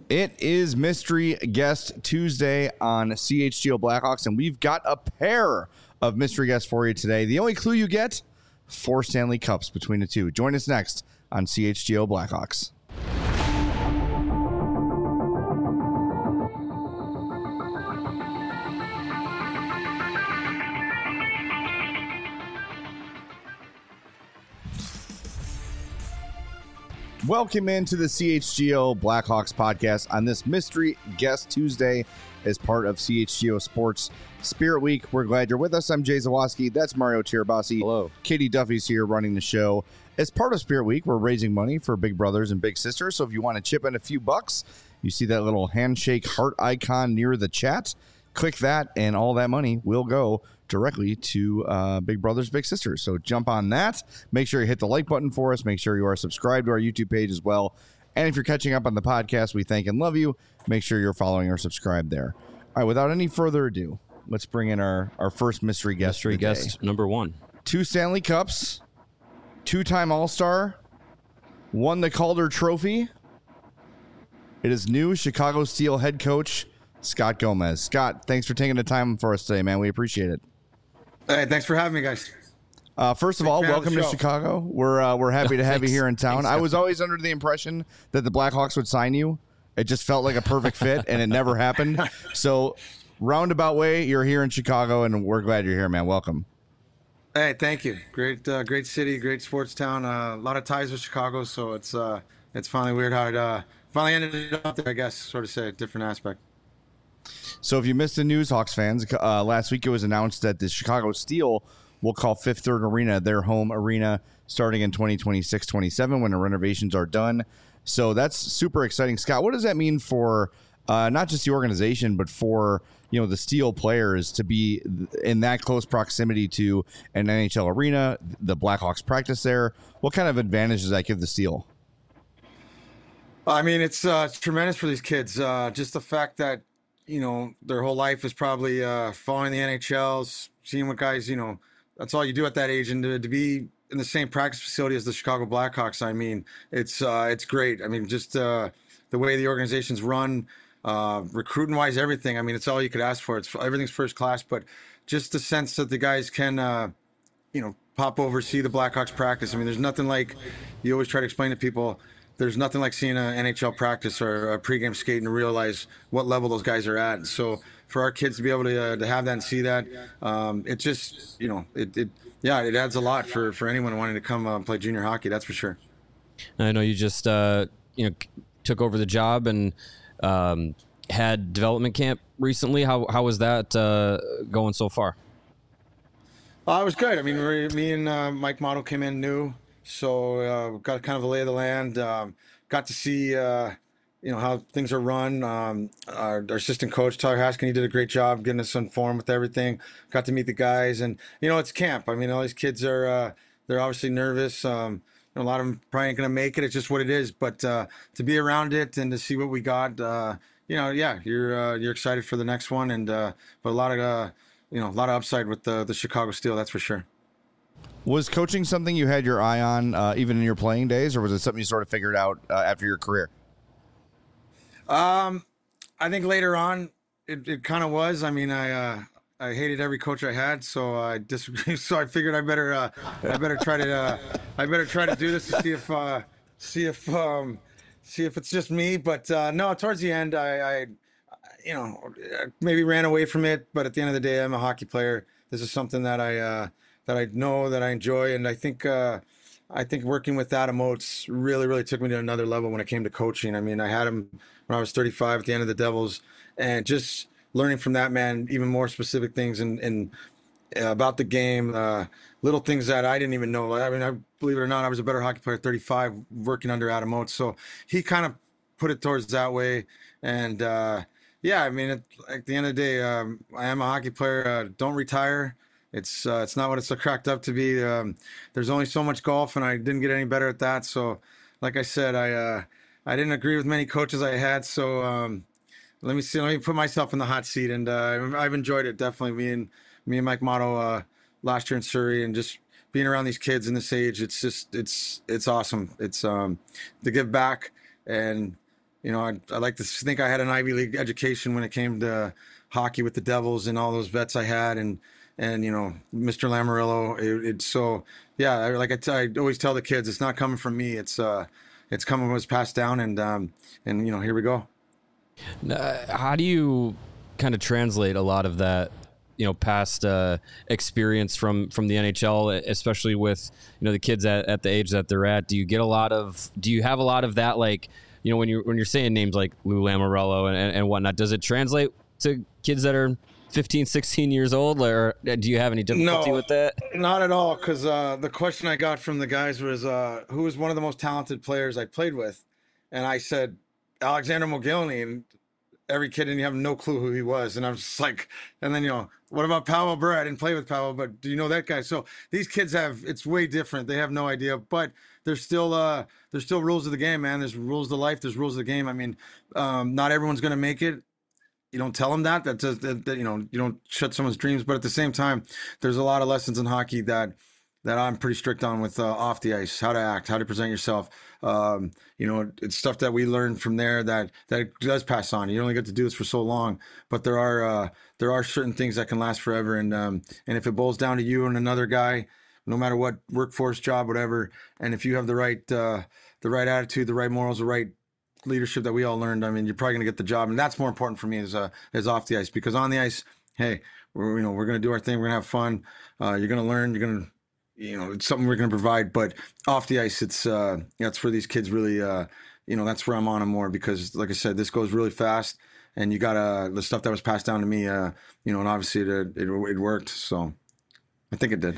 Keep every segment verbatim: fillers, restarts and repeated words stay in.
It is Mystery Guest Tuesday on C H G O Blackhawks, and we've got a pair of mystery guests for you today. The only clue you get, four Stanley Cups between the two. Join us next on C H G O Blackhawks. Welcome into the C H G O Blackhawks podcast on this Mystery Guest Tuesday as part of C H G O Sports Spirit Week. We're glad you're with us. I'm Jay Zawaski. That's Mario Tirabassi. Hello. Katie Duffy's here running the show. As part of Spirit Week, we're raising money for Big Brothers and Big Sisters. So if you want to chip in a few bucks, you see that little handshake heart icon near the chat. Click that, and all that money will go directly to uh, Big Brothers Big Sisters. So jump on that. Make sure you hit the like button for us. Make sure you are subscribed to our YouTube page as well. And if you're catching up on the podcast, we thank and love you. Make sure you're following or subscribed there. All right, without any further ado, let's bring in our, our first mystery guest. Mystery guest number one. Two Stanley Cups, two-time All-Star, won the Calder Trophy. It is new Chicago Steel head coach Scott Gomez. Scott, thanks for taking the time for us today, man. We appreciate it. Hey, thanks for having me, guys. Uh, first of all, welcome to Chicago. We're uh, we're happy to have you here in town. I was always under the impression that the Blackhawks would sign you. It just felt like a perfect fit, and it never happened. So, roundabout way, you're here in Chicago, and we're glad you're here, man. Welcome. Hey, thank you. Great, uh, great city, great sports town. Uh, a lot of ties with Chicago, so it's uh, it's finally weird how it uh, finally ended up there. I guess, sort of say a different aspect. So if you missed the news, Hawks fans, uh, last week it was announced that the Chicago Steel will call Fifth Third Arena their home arena starting in twenty twenty-six twenty-seven when the renovations are done. So that's super exciting. Scott, what does that mean for uh, not just the organization, but for you know the Steel players to be in that close proximity to an N H L arena, the Blackhawks practice there? What kind of advantage does that give the Steel? I mean, it's, uh, it's tremendous for these kids. Uh, just the fact that you know, their whole life is probably uh, following the N H Ls, seeing what guys, you know, that's all you do at that age. And to, to be in the same practice facility as the Chicago Blackhawks, I mean, it's uh, it's great. I mean, just uh, the way the organization's run, uh, recruiting-wise, everything. I mean, it's all you could ask for. It's everything's first class, but just the sense that the guys can, uh, you know, pop over, see the Blackhawks practice. I mean, there's nothing like, you always try to explain to people, there's nothing like seeing an N H L practice or a pregame skate and realize what level those guys are at. So for our kids to be able to, uh, to have that and see that, um, it just, you know, it, it, yeah, it adds a lot for, for anyone wanting to come uh, play junior hockey. That's for sure. I know you just, uh, you know, took over the job and um, had development camp recently. How, how was that uh, going so far? Uh, it was good. I mean, we, me and uh, Mike Motto came in new. So uh, got kind of a lay of the land. Um, got to see, uh, you know, how things are run. Um, our, our assistant coach, Tyler Haskin, he did a great job getting us informed with everything. Got to meet the guys, and you know, it's camp. I mean, all these kids are uh, they're obviously nervous. Um, you know, a lot of them probably ain't gonna make it. It's just what it is. But uh, to be around it and to see what we got, uh, you know, yeah, you're uh, you're excited for the next one, and uh, but a lot of uh, you know, a lot of upside with the the Chicago Steel. That's for sure. Was coaching something you had your eye on uh, even in your playing days, or was it something you sort of figured out uh, after your career? Um, I think later on it, it kind of was. I mean, I uh, I hated every coach I had, so I disagreed. So I figured I better uh, I better try to uh, I better try to do this to see if uh, see if um, see if it's just me. But uh, no, towards the end, I, I you know maybe ran away from it. But at the end of the day, I'm a hockey player. This is something that I. Uh, that I know, that I enjoy. And I think uh, I think working with Adam Oates really, really took me to another level when it came to coaching. I mean, I had him when I was thirty-five at the end of the Devils, and just learning from that man even more specific things and, and uh, about the game, uh, little things that I didn't even know. I mean, I believe it or not, I was a better hockey player at thirty-five working under Adam Oates. So he kind of put it towards that way. And uh, yeah, I mean, it, at the end of the day, um, I am a hockey player. Uh, don't retire. It's uh, it's not what it's cracked up to be. Um, there's only so much golf, and I didn't get any better at that. So, like I said, I uh, I didn't agree with many coaches I had. So um, let me see. Let me put myself in the hot seat, and uh, I've enjoyed it definitely. Me and me and Mike Motto uh, last year in Surrey, and just being around these kids in this age, it's just it's it's awesome. It's um, to give back, and you know, I I like to think I had an Ivy League education when it came to hockey with the Devils and all those vets I had, and and you know, Mister Lamoriello. It, it's so yeah, I, like I, t- I always tell the kids, it's not coming from me. It's uh, it's coming was passed down, and um, and you know, here we go. Uh, how do you kind of translate a lot of that, you know, past uh, experience from from the N H L, especially with, you know, the kids at, at the age that they're at? Do you get a lot of, do you have a lot of that, like, you know, when you're when you're saying names like Lou Lamoriello and, and, and whatnot, does it translate to kids that are fifteen, sixteen years old, or do you have any difficulty No, with that? Not at all, because uh, the question I got from the guys was, uh, who was one of the most talented players I played with? And I said, Alexander Mogilny, and every kid, and you have no clue who he was. And I was just like, and then, you know, what about Pavel Bure? I didn't play with Pavel, but do you know that guy? So these kids have, it's way different. They have no idea, but there's still, uh, there's still rules of the game, man. There's rules of life. There's rules of the game. I mean, um, not everyone's going to make it. You don't tell them that, that, does, that, that, you know, you don't shut someone's dreams, but at the same time, there's a lot of lessons in hockey that, that I'm pretty strict on with uh, off the ice, how to act, how to present yourself. Um, you know, it's stuff that we learned from there that, that does pass on. You only get to do this for so long, but there are, uh, there are certain things that can last forever. And, um, and if it boils down to you and another guy, no matter what workforce, job, whatever, and if you have the right, uh, the right attitude, the right morals, the right leadership that we all learned, I mean, you're probably going to get the job. And that's more important for me as, uh, as off the ice, because on the ice, hey, we're, you know, we're going to do our thing. We're going to have fun. Uh, you're going to learn, you're going to, you know, it's something we're going to provide, but off the ice, it's, uh, that's where these kids really, uh, you know, that's where I'm on them more, because like I said, this goes really fast, and you got, uh, the stuff that was passed down to me, uh, you know, and obviously it, it, it worked. So I think it did.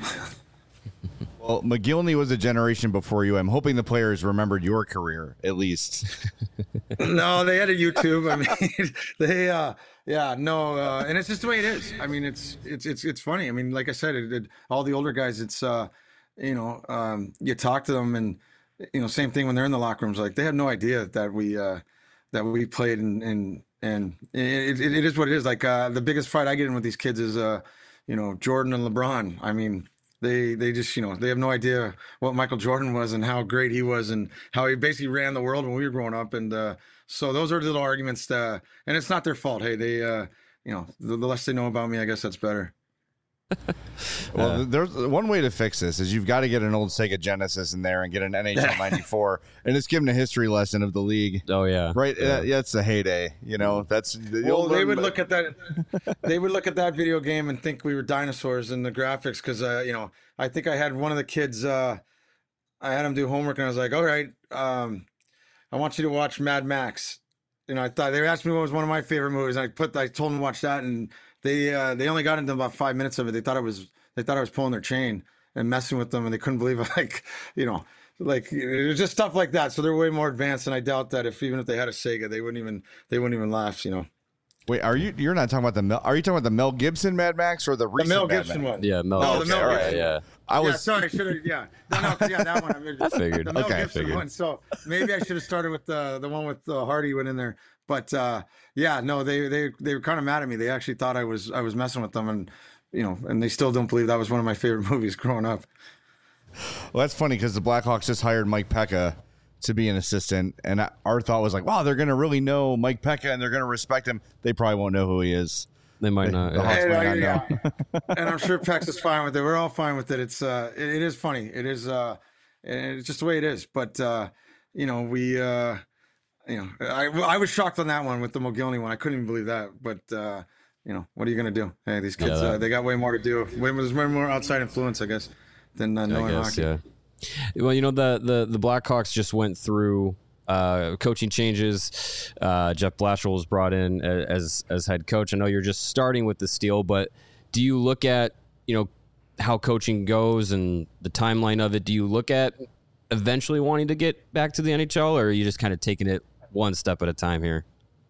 Well, McGillney was a generation before you. I'm hoping the players remembered your career at least. No, they had a YouTube. I mean, they, uh, yeah, no, uh, and it's just the way it is. I mean, it's it's it's it's funny. I mean, like I said, it, it, all the older guys, it's uh, you know, um, you talk to them, and you know, same thing when they're in the locker rooms. Like they have no idea that we uh, that we played, and and and it, it, it is what it is. Like uh, the biggest fight I get in with these kids is uh, you know, Jordan and LeBron. I mean. They they just, you know, they have no idea what Michael Jordan was and how great he was and how he basically ran the world when we were growing up. And uh, so those are little arguments, uh, and it's not their fault. Hey, they, uh, you know, the, the less they know about me, I guess that's better. Well, there's one way to fix this is you've got to get an old Sega Genesis in there and get an N H L ninety-four and just give them a history lesson of the league. Oh yeah, right. Yeah, uh, yeah it's a heyday. You know, that's well, they would look at that. They would look at that video game and think we were dinosaurs in the graphics, because uh, you know, I think I had one of the kids. Uh, I had him do homework, and I was like, "All right, um, I want you to watch Mad Max." You know, I thought they asked me what was one of my favorite movies. And I put, I told them to watch that, and they uh, they only got into about five minutes of it. They thought it was they thought I was pulling their chain and messing with them, and they couldn't believe it. Like, you know, like it was just stuff like that. So they're way more advanced, and I doubt that if even if they had a Sega, they wouldn't even they wouldn't even laugh. You know. Wait, are you? You're not talking about the Mel? Are you talking about the Mel Gibson Mad Max or the recent the Mel Mad Gibson Max? one? yeah, Mel. No, okay, the Mel all Gibson. right, yeah. I was yeah, sorry, should have. Yeah, no, no, 'cause, yeah, that one. I, mean, I figured. The Mel Okay, I Gibson figured. one. So maybe I should have started with the the one with uh, Hardy went in there. But uh, yeah, no, they they they were kind of mad at me. They actually thought I was I was messing with them, and you know, and they still don't believe that was one of my favorite movies growing up. Well, that's funny because the Blackhawks just hired Mike Pekka to be an assistant, and our thought was like, wow, they're going to really know Mike Pekka and they're going to respect him. They probably won't know who he is. They might not. The Yeah. Hawks Hey, might uh, not yeah. know. And I'm sure Pex is fine with it. We're all fine with it. It's uh, it, it is funny. It is uh, it's just the way it is. But uh, you know, we uh, you know, I I was shocked on that one with the Mogilny one. I couldn't even believe that. But uh, you know, what are you gonna do? Hey, these kids, Yeah, that- uh, they got way more to do. Way, there's way more outside influence, I guess, than uh, I knowing guess, hockey. yeah. Well, you know, the the the Blackhawks just went through uh, coaching changes. Uh, Jeff Blashill was brought in a- as as head coach. I know you're just starting with the Steel, but do you look at, you know, how coaching goes and the timeline of it? Do you look at eventually wanting to get back to the N H L, or are you just kind of taking it one step at a time here?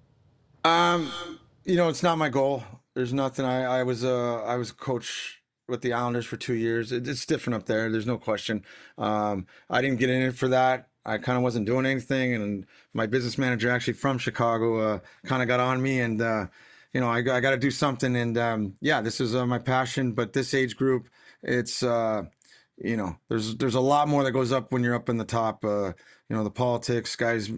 Um, you know, it's not my goal. There's nothing. I I was uh I was a coach with the Islanders for two years. It, it's different up there. There's no question. Um, I didn't get in it for that. I kind of wasn't doing anything, and my business manager, actually from Chicago, uh, kind of got on me, and uh, you know, I, I got to do something. And um, yeah, this is uh, my passion. But this age group, it's uh, you know, there's there's a lot more that goes up when you're up in the top. Uh, you know, the politics, guys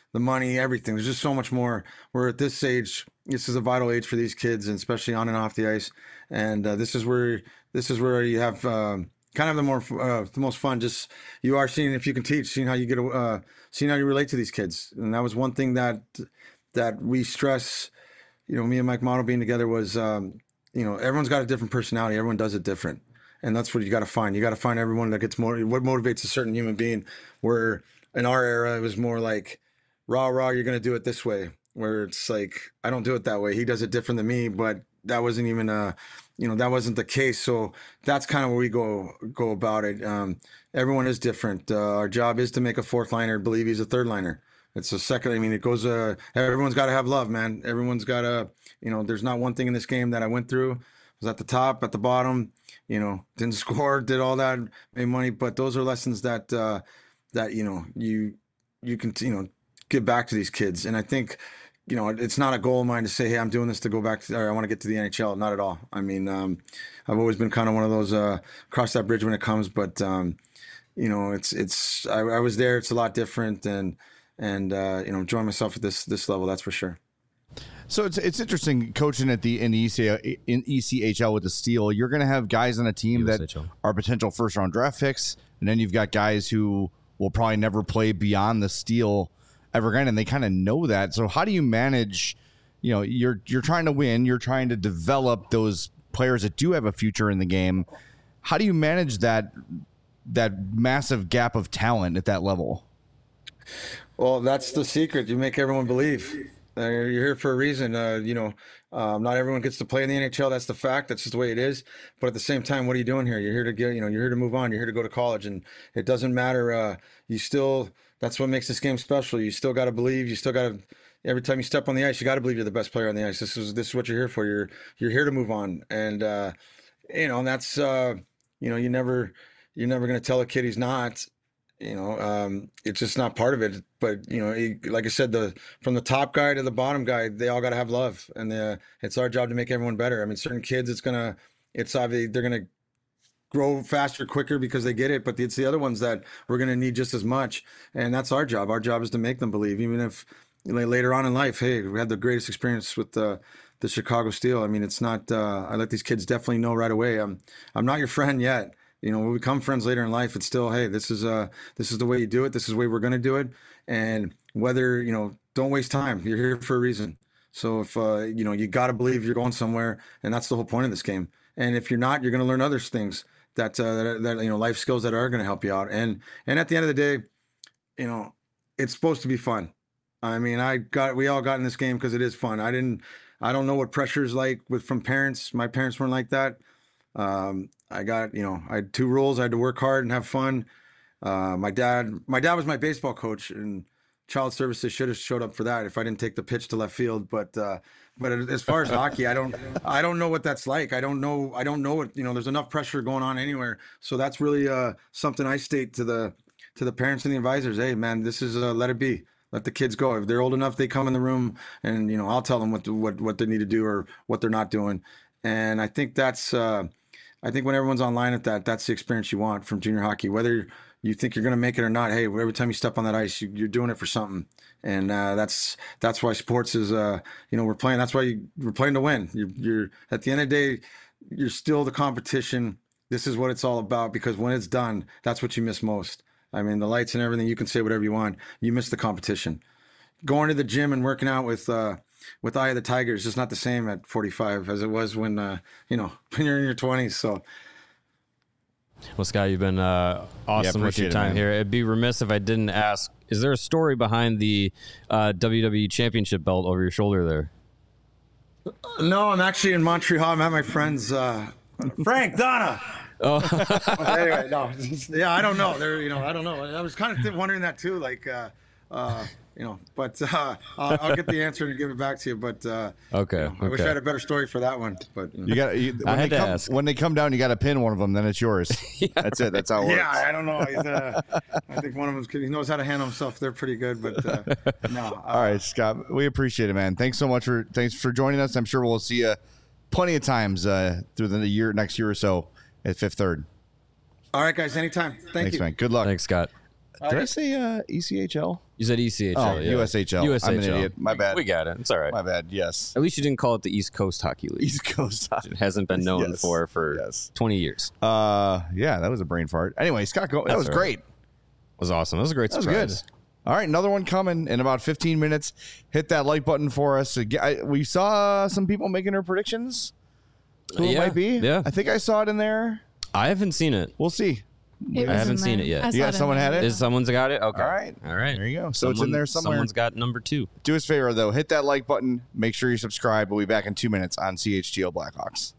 the money, everything. There's just so much more. We're at this age. This is a vital age for these kids, and especially on and off the ice. And uh, this is where this is where you have um, kind of the more uh, the most fun. Just you are seeing if you can teach, seeing how you get, uh, seeing how you relate to these kids. And that was one thing that that we stress. You know, me and Mike Model being together was, um, you know, everyone's got a different personality. Everyone does it different. And that's what you got to find. You got to find everyone that gets more, what motivates a certain human being. Where in our era, it was more like, rah, rah, you're going to do it this way. Where it's like, I don't do it that way. He does it different than me, but that wasn't even, uh, you know, that wasn't the case. So that's kind of where we go, go about it. Um, everyone is different. Uh, our job is to make a fourth liner believe he's a third liner. It's a second. I mean, it goes, uh, everyone's got to have love, man. Everyone's got to, you know, there's not one thing in this game that I went through. I was at the top, at the bottom, you know, didn't score, did all that, made money. But those are lessons that, uh, that, you know, you, you can, you know, give back to these kids. And I think, you know, it's not a goal of mine to say, hey, I'm doing this to go back to, or I want to get to the N H L. Not at all. I mean, um, I've always been kind of one of those, uh, cross that bridge when it comes, but, um, you know, it's, it's, I, I was there. It's a lot different. And, and, uh, you know, enjoying myself at this, this level, that's for sure. So it's it's interesting coaching at the in the E C, in E C H L with the Steel. You're going to have guys on a team U S H L. that are potential first round draft picks, and then you've got guys who will probably never play beyond the Steel ever again, and they kind of know that. So how do you manage? You know, you're you're trying to win, you're trying to develop those players that do have a future in the game. How do you manage that that massive gap of talent at that level? Well, that's the secret. You make everyone believe. Uh, you're here for a reason. Uh, you know, um, not everyone gets to play in the N H L. That's the fact. That's just the way it is. But at the same time, what are you doing here? You're here to get, you know, you're here to move on. You're here to go to college, and it doesn't matter. Uh, you still, that's what makes this game special. You still got to believe. You still got to, every time you step on the ice, you got to believe you're the best player on the ice. This is, this is what you're here for. You're, you're here to move on. And, uh, you know, and that's, uh, you know, you never, you're never going to tell a kid he's not. You know, um, it's just not part of it. But, you know, he, like I said, the from the top guy to the bottom guy, they all got to have love. And the, it's our job to make everyone better. I mean, certain kids, it's going to, it's obviously, they're going to grow faster, quicker because they get it. But it's the other ones that we're going to need just as much. And that's our job. Our job is to make them believe, even if you know, later on in life, hey, we had the greatest experience with the, the Chicago Steel. I mean, it's not, uh, I let these kids definitely know right away. I'm, I'm not your friend yet. You know, when we become friends later in life, it's still, hey, this is uh, this is the way you do it. This is the way we're going to do it. And whether, you know, don't waste time. You're here for a reason. So if, uh, you know, you got to believe you're going somewhere. And that's the whole point of this game. And if you're not, you're going to learn other things that, uh, that, that, you know, life skills that are going to help you out. And, and at the end of the day, you know, it's supposed to be fun. I mean, I got, we all got in this game because it is fun. I didn't, I don't know what pressure is like with from parents. My parents weren't like that. Um, I got, you know, I had two rules. I had to work hard and have fun. Uh, my dad, my dad was my baseball coach, and child services should have showed up for that if I didn't take the pitch to left field. But, uh, but as far as hockey, I don't, I don't know what that's like. I don't know. I don't know what, you know, there's enough pressure going on anywhere. So that's really, uh, something I state to the, to the parents and the advisors. Hey man, this is, uh, let it be. Let the kids go. If they're old enough, they come in the room and, you know, I'll tell them what, to, what, what they need to do or what they're not doing. And I think that's, uh, I think when everyone's online at that, that's the experience you want from junior hockey. Whether you think you're going to make it or not, hey, every time you step on that ice, you, you're doing it for something, and uh, that's that's why sports is, uh, you know, we're playing. That's why you, we're playing to win. You're, you're at the end of the day, you're still the competition. This is what it's all about, because when it's done, that's what you miss most. I mean, the lights and everything. You can say whatever you want. You miss the competition. Going to the gym and working out with. Uh, With Eye of the Tiger, it's just not the same at forty-five as it was when, uh, you know, when you're in your twenties. So, well, Scott, you've been uh, awesome yeah, with your it, time man. here. It'd be remiss if I didn't ask, is there a story behind the uh, W W E Championship belt over your shoulder there? No, I'm actually in Montreal. I'm at my friend's, uh, Frank, Donna. Oh, anyway, no, yeah, I don't know. There, you know, I don't know. I was kind of wondering that too, like, uh, uh, you know, but uh, I'll, I'll get the answer and give it back to you. But uh, okay, you know, I okay. wish I had a better story for that one. But you, know. you got you, I when had they to come, ask. when they come down, you got to pin one of them. Then it's yours. yeah, That's it. That's how it works. Yeah, I don't know. He's, uh, I think one of them, he knows how to handle himself. They're pretty good, but uh, no. Uh, All right, Scott, we appreciate it, man. Thanks so much for thanks for joining us. I'm sure we'll see you plenty of times uh, through the year, next year or so at Fifth Third. All right, guys. Anytime. Thank Thanks, you. man. Good luck. Thanks, Scott. Did I say uh, E C H L? You said E C H L. Oh, yeah. U S H L. U S H L. I'm an idiot. My bad. We got it. It's all right. My bad. Yes. At least you didn't call it the East Coast Hockey League. East Coast. It hasn't been known Yes. for for Yes. twenty years. Uh, yeah, that was a brain fart. Anyway, Scott, go- that That's was all right. great. It was awesome. That was a great That was surprise. good. All right, another one coming in about fifteen minutes. Hit that like button for us. I- We saw some people making their predictions. Who it Yeah, might be? yeah. I think I saw it in there. I haven't seen it. We'll see. It I was haven't in seen there. it yet. I You saw got in someone there. had it? Is someone's got it? Okay. All right. All right. There you go. So it's in there somewhere. Someone's got number two. Do us a favor, though. Hit that like button. Make sure you subscribe. We'll be back in two minutes on C H G O Blackhawks.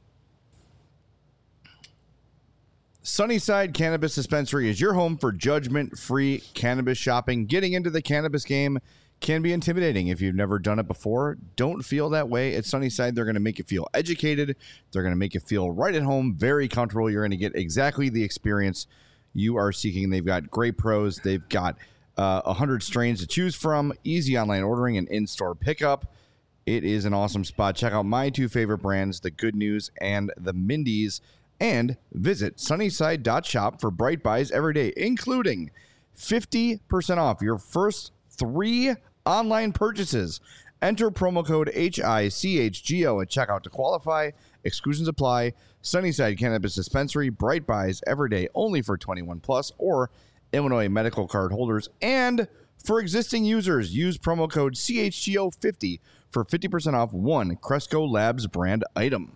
Sunnyside Cannabis Dispensary is your home for judgment-free cannabis shopping. Getting into the cannabis game can be intimidating if you've never done it before. Don't feel that way. At Sunnyside, they're going to make you feel educated. They're going to make you feel right at home, very comfortable. You're going to get exactly the experience you are seeking. They've got great pros. They've got uh, one hundred strains to choose from, easy online ordering and in-store pickup. It is an awesome spot. Check out my two favorite brands, the Good News and the Mindy's, and visit sunnyside dot shop for bright buys every day, including fifty percent off your first three online purchases. Enter promo code H I C H G O at checkout to qualify. Exclusions apply. Sunnyside Cannabis Dispensary, bright buys every day, only for twenty-one plus or Illinois medical card holders. And for existing users, use promo code C H G O fifty for fifty percent off one Cresco Labs brand item.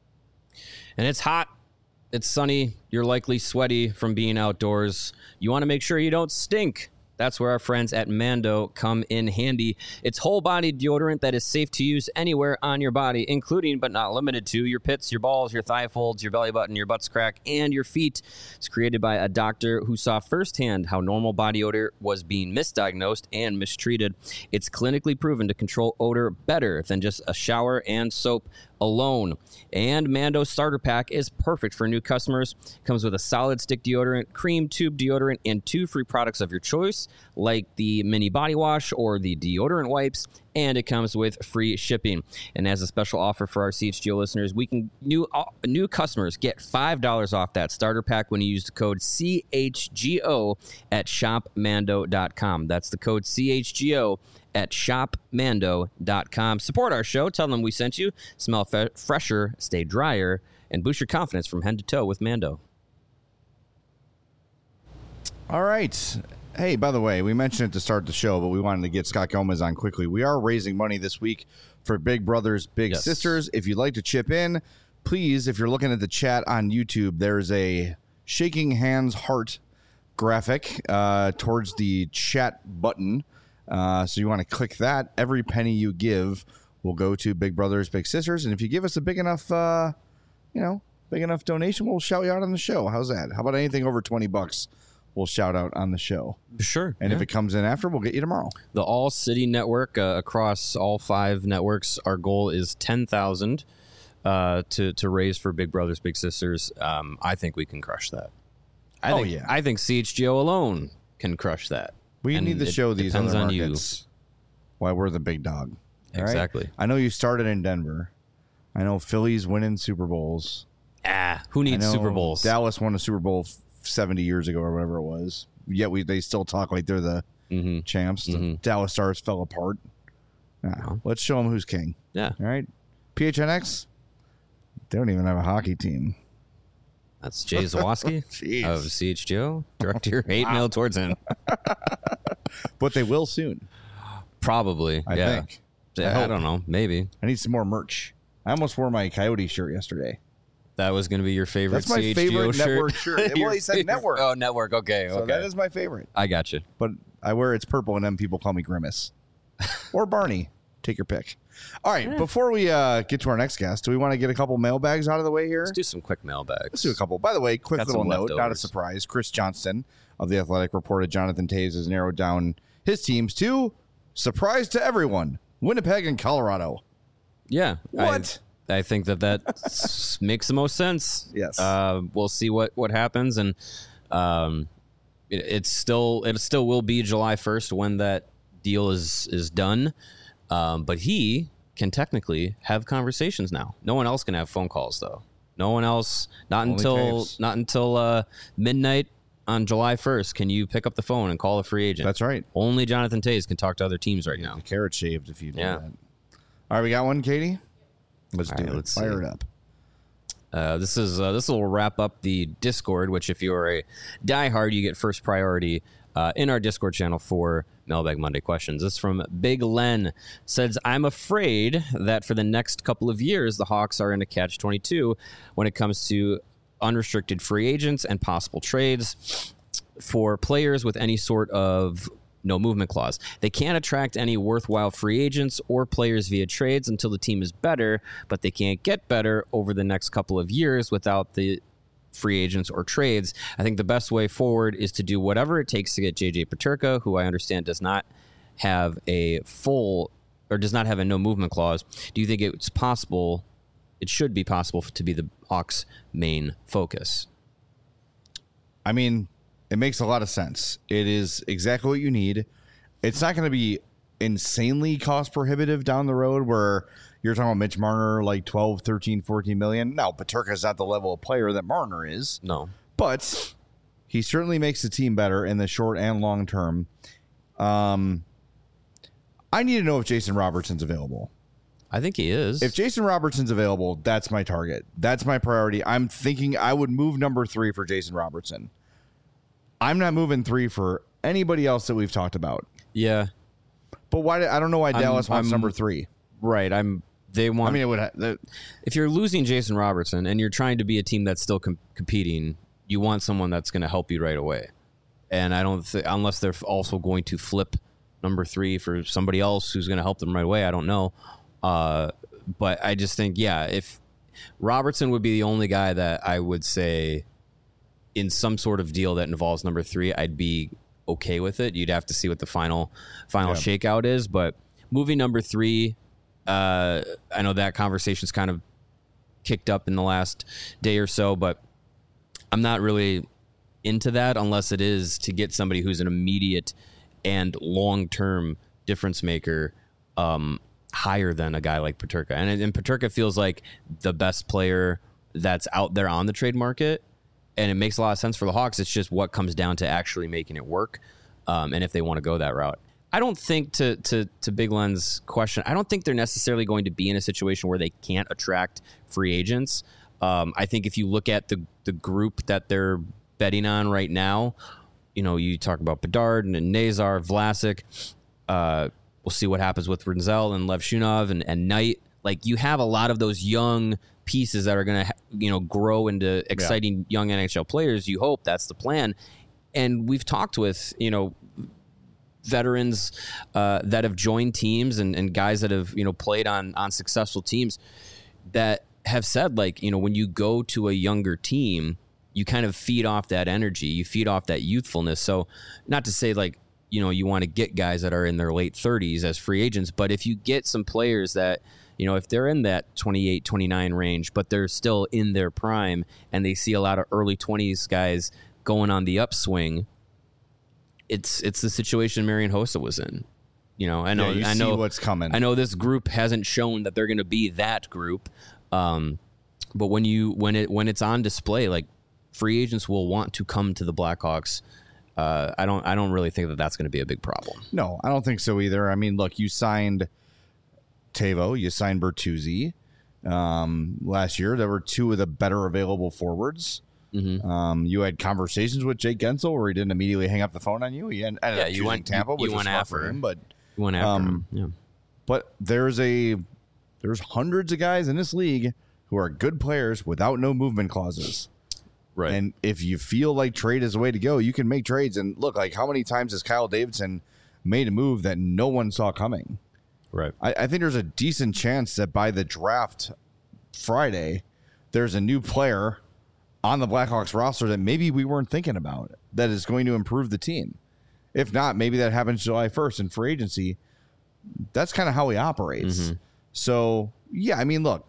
And it's hot. It's sunny. You're likely sweaty from being outdoors. You want to make sure you don't stink. That's where our friends at Mando come in handy. It's whole-body deodorant that is safe to use anywhere on your body, including but not limited to your pits, your balls, your thigh folds, your belly button, your butt's crack, and your feet. It's created by a doctor who saw firsthand how normal body odor was being misdiagnosed and mistreated. It's clinically proven to control odor better than just a shower and soap alone. And Mando Starter Pack is perfect for new customers. Comes with a solid stick deodorant, cream tube deodorant, and two free products of your choice, like the mini body wash or the deodorant wipes. And it comes with free shipping. And as a special offer for our C H G O listeners, we can new uh, new customers get five dollars off that starter pack when you use the code C H G O at shop mando dot com. That's the code C H G O at shop mando dot com. Support our show. Tell them we sent you. Smell fe- fresher, stay drier, and boost your confidence from head to toe with Mando. All right. Hey, by the way, we mentioned it to start the show, but we wanted to get Scott Gomez on quickly. We are raising money this week for Big Brothers Big Yes. Sisters. If you'd like to chip in, please, if you're looking at the chat on YouTube, there's a shaking hands heart graphic uh, towards the chat button. Uh, so you want to click that. Every penny you give will go to Big Brothers Big Sisters. And if you give us a big enough, uh, you know, big enough donation, we'll shout you out on the show. How's that? How about anything over twenty bucks? We'll shout out on the show. Sure. And yeah. if it comes in after, we'll get you tomorrow. The All City Network uh, across all five networks, our goal is ten thousand uh, to to raise for Big Brothers Big Sisters. Um, I think we can crush that. I Oh, think, yeah. I think C H G O alone can crush that. We And need to it show these depends other on you. markets why we're the big dog. All right? Exactly. I know you started in Denver. I know Philly's winning Super Bowls. Ah, who I needs know Super Bowls? Dallas won a Super Bowl f- seventy years ago or whatever it was. Yet we they still talk like they're the mm-hmm. champs. The Mhm. Dallas Stars fell apart. Ah, Wow. Let's show them who's king. Yeah, All right. P H N X, they don't even have a hockey team. that's Jay Zawoski Jeez. of C H G O. Direct your hate mail towards him. But they will soon, Probably. I yeah. think. Yeah, I I, hope. don't know. Maybe I need some more merch. I almost wore my Coyote shirt yesterday. that was going to be your favorite That's my C H G O favorite shirt. network shirt. Well, Your he said favorite- network. Oh, network. Okay. So okay. that is my favorite. I got you. But I wear it's purple, and then people call me Grimace or Barney. Take your pick. All right. Before we uh, get to our next guest, do we want to get a couple mailbags out of the way here? Let's do some quick mailbags. Let's do a couple. By the way, quick Got little some note, not a leftovers. surprise. Chris Johnston of The Athletic reported Jonathan Toews has narrowed down his teams to, surprise to everyone, Winnipeg and Colorado. Yeah. What? I, I think that that s- makes the most sense. Yes. Uh, we'll see what, what happens. And um, it, it's still, it still will be July first when that deal is, is done. Um, but he can technically have conversations now. No one else can have phone calls, though. No one else, not Only until Taves. not until uh, midnight on July first, can you pick up the phone and call a free agent? That's right. Only Jonathan Toews can talk to other teams right now. The carrot shaved if you do Yeah. that. All right, we got one, Katie? Let's All do right, it. let's Fire see. it up. Uh, this is uh, this will wrap up the Discord, which if you're a diehard, you get first priority uh, in our Discord channel for Mailbag Monday questions. This is from Big Len. Says, I'm afraid that for the next couple of years, the Hawks are in a catch twenty-two when it comes to unrestricted free agents and possible trades for players with any sort of no movement clause. They can't attract any worthwhile free agents or players via trades until the team is better, but they can't get better over the next couple of years without the free agents or trades. I think the best way forward is to do whatever it takes to get J J Peterka, who I understand does not have a full or does not have a no movement clause. Do you think it's possible, it should be possible to be the Hawks' main focus? I mean, it makes a lot of sense. It is exactly what you need. It's not going to be insanely cost prohibitive down the road where you're talking about Mitch Marner like twelve, thirteen, fourteen million. Now, Peterka is not the level of player that Marner is. No. But he certainly makes the team better in the short and long term. Um, I need to know if Jason Robertson's available. I think he is. If Jason Robertson's available, that's my target. That's my priority. I'm thinking I would move number three for Jason Robertson. I'm not moving three for anybody else that we've talked about. Yeah. But why? I don't know why I'm- Dallas wants I'm- number three. Right. I'm. They want. I mean, it would. Ha- the, if you're losing Jason Robertson and you're trying to be a team that's still com- competing, you want someone that's going to help you right away. And I don't think, unless they're also going to flip number three for somebody else who's going to help them right away. I don't know. Uh, but I just think, yeah, if Robertson would be the only guy that I would say in some sort of deal that involves number three, I'd be okay with it. You'd have to see what the final final Yeah. shakeout is. But moving number three, uh, I know that conversation's kind of kicked up in the last day or so, but I'm not really into that unless it is to get somebody who's an immediate and long-term difference maker um, higher than a guy like Peterka. And, and Peterka feels like the best player that's out there on the trade market, and it makes a lot of sense for the Hawks. It's just what comes down to actually making it work, um, and if they want to go that route. I don't think, to, to, to Big Len's question, I don't think they're necessarily going to be in a situation where they can't attract free agents. Um, I think if you look at the the group that they're betting on right now, you know, you talk about Bedard and, and Nazar, Vlasic. Uh, we'll see what happens with Renzel and Lev Shunov and, and Knight. Like, you have a lot of those young pieces that are going to, you know, grow into exciting young N H L players. You hope that's the plan. And we've talked with, you know, veterans uh, that have joined teams and, and guys that have, you know, played on on successful teams that have said, like, you know, when you go to a younger team, you kind of feed off that energy, you feed off that youthfulness. So not to say, like, you know, you want to get guys that are in their late thirties as free agents, but if you get some players that, you know, if they're in that twenty-eight, twenty-nine range, but they're still in their prime and they see a lot of early twenties guys going on the upswing, it's it's the situation Marian Hossa was in. You know, I know, yeah, you I see know what's coming. I know this group hasn't shown that they're going to be that group, um, but when you when it when it's on display, like, free agents will want to come to the Blackhawks. Uh, I don't I don't really think that that's going to be a big problem. No, I don't think so either. I mean, look, you signed Tavo, you signed Bertuzzi um, last year. There were two of the better available forwards. Mm-hmm. Um, you had conversations with Jake Gensel where he didn't immediately hang up the phone on you. He ended Yeah, up you choosing went- Tampa, you- which you was went smart after for him. him. But You went after Um, him. Yeah. but there's a there's hundreds of guys in this league who are good players without no movement clauses. Right. And if you feel like trade is the way to go, you can make trades. And look, like, how many times has Kyle Davidson made a move that no one saw coming? right. I, I think there's a decent chance that by the draft Friday, there's a new player on the Blackhawks roster that maybe we weren't thinking about that is going to improve the team. If not, maybe that happens July first in free agency. That's kind of how he operates. Mm-hmm. So, yeah, I mean, look,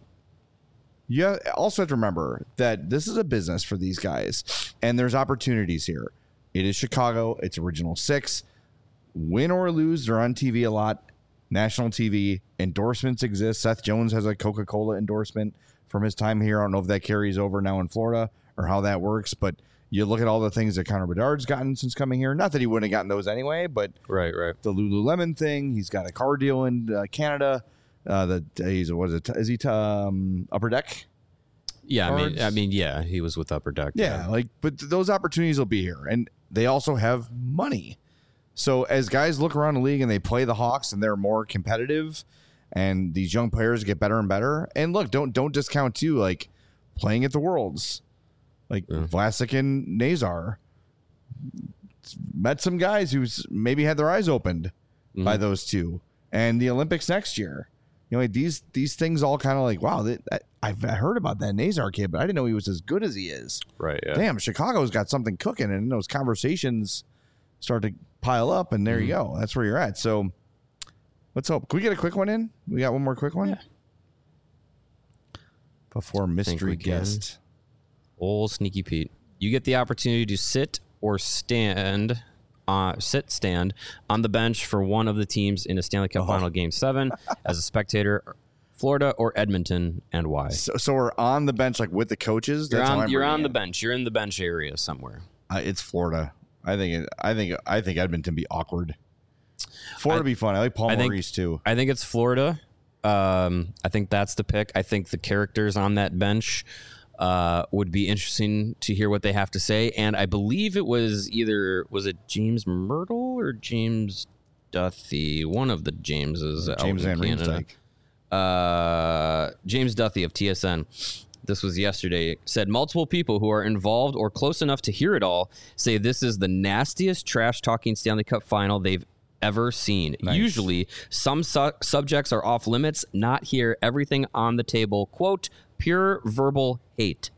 you also have to remember that this is a business for these guys, and there's opportunities here. It is Chicago. It's Original Six. Win or lose, they're on T V a lot. National T V. Endorsements exist. Seth Jones has a Coca-Cola endorsement from his time here. I don't know if that carries over now in Florida or how that works, but You look at all the things that Connor Bedard's gotten since coming here. Not that he wouldn't have gotten those anyway, but Right, right. the Lululemon thing. He's got a car deal in uh, Canada. Uh, the he's what is it? Is he um, Upper Deck? Yeah, I mean, Cards? I mean, yeah, he was with Upper Deck. Yeah, like, but th- those opportunities will be here, and they also have money. So as guys look around the league and they play the Hawks and they're more competitive, and these young players get better and better. And look, don't don't discount too, like playing at the Worlds, like Yeah. Vlasic and Nazar met some guys who's maybe had their eyes opened Mhm. by those two, and the Olympics next year. You know, like these these things all kind of like, wow, that, that, I've heard about that Nazar kid, but I didn't know he was as good as he is. Right, yeah. Damn, Chicago's got something cooking, and those conversations start to pile up, and there you go. That's where you're at. So let's hope. Can we get a quick one in? We got one more quick one? Yeah. Before mystery we can. guest. Old Sneaky Pete. You get the opportunity to sit or stand, uh, sit, stand on the bench for one of the teams in a Stanley Cup Oh. Final Game seven as a spectator, Florida or Edmonton, and why? So, so we're on the bench, like with the coaches. You're That's how on, I'm you're on reading the it. bench. You're in the bench area somewhere. Uh, it's Florida. I think. It, I think. I think Edmonton be awkward. Florida be fun. I like Paul I think- Maurice too. I think it's Florida. Um, I think that's the pick. I think the characters on that bench uh, would be interesting to hear what they have to say. And I believe it was either was it James Myrtle or James Duthie, one of the Jameses out James in Van Canada. Riemsdyk. Uh, James Duthie of T S N. This was yesterday. Said multiple people who are involved or close enough to hear it all say this is the nastiest trash talking Stanley Cup final they've ever seen. Nice. Usually, some su- subjects are off limits. Not here. Everything on the table. Quote: pure verbal hate.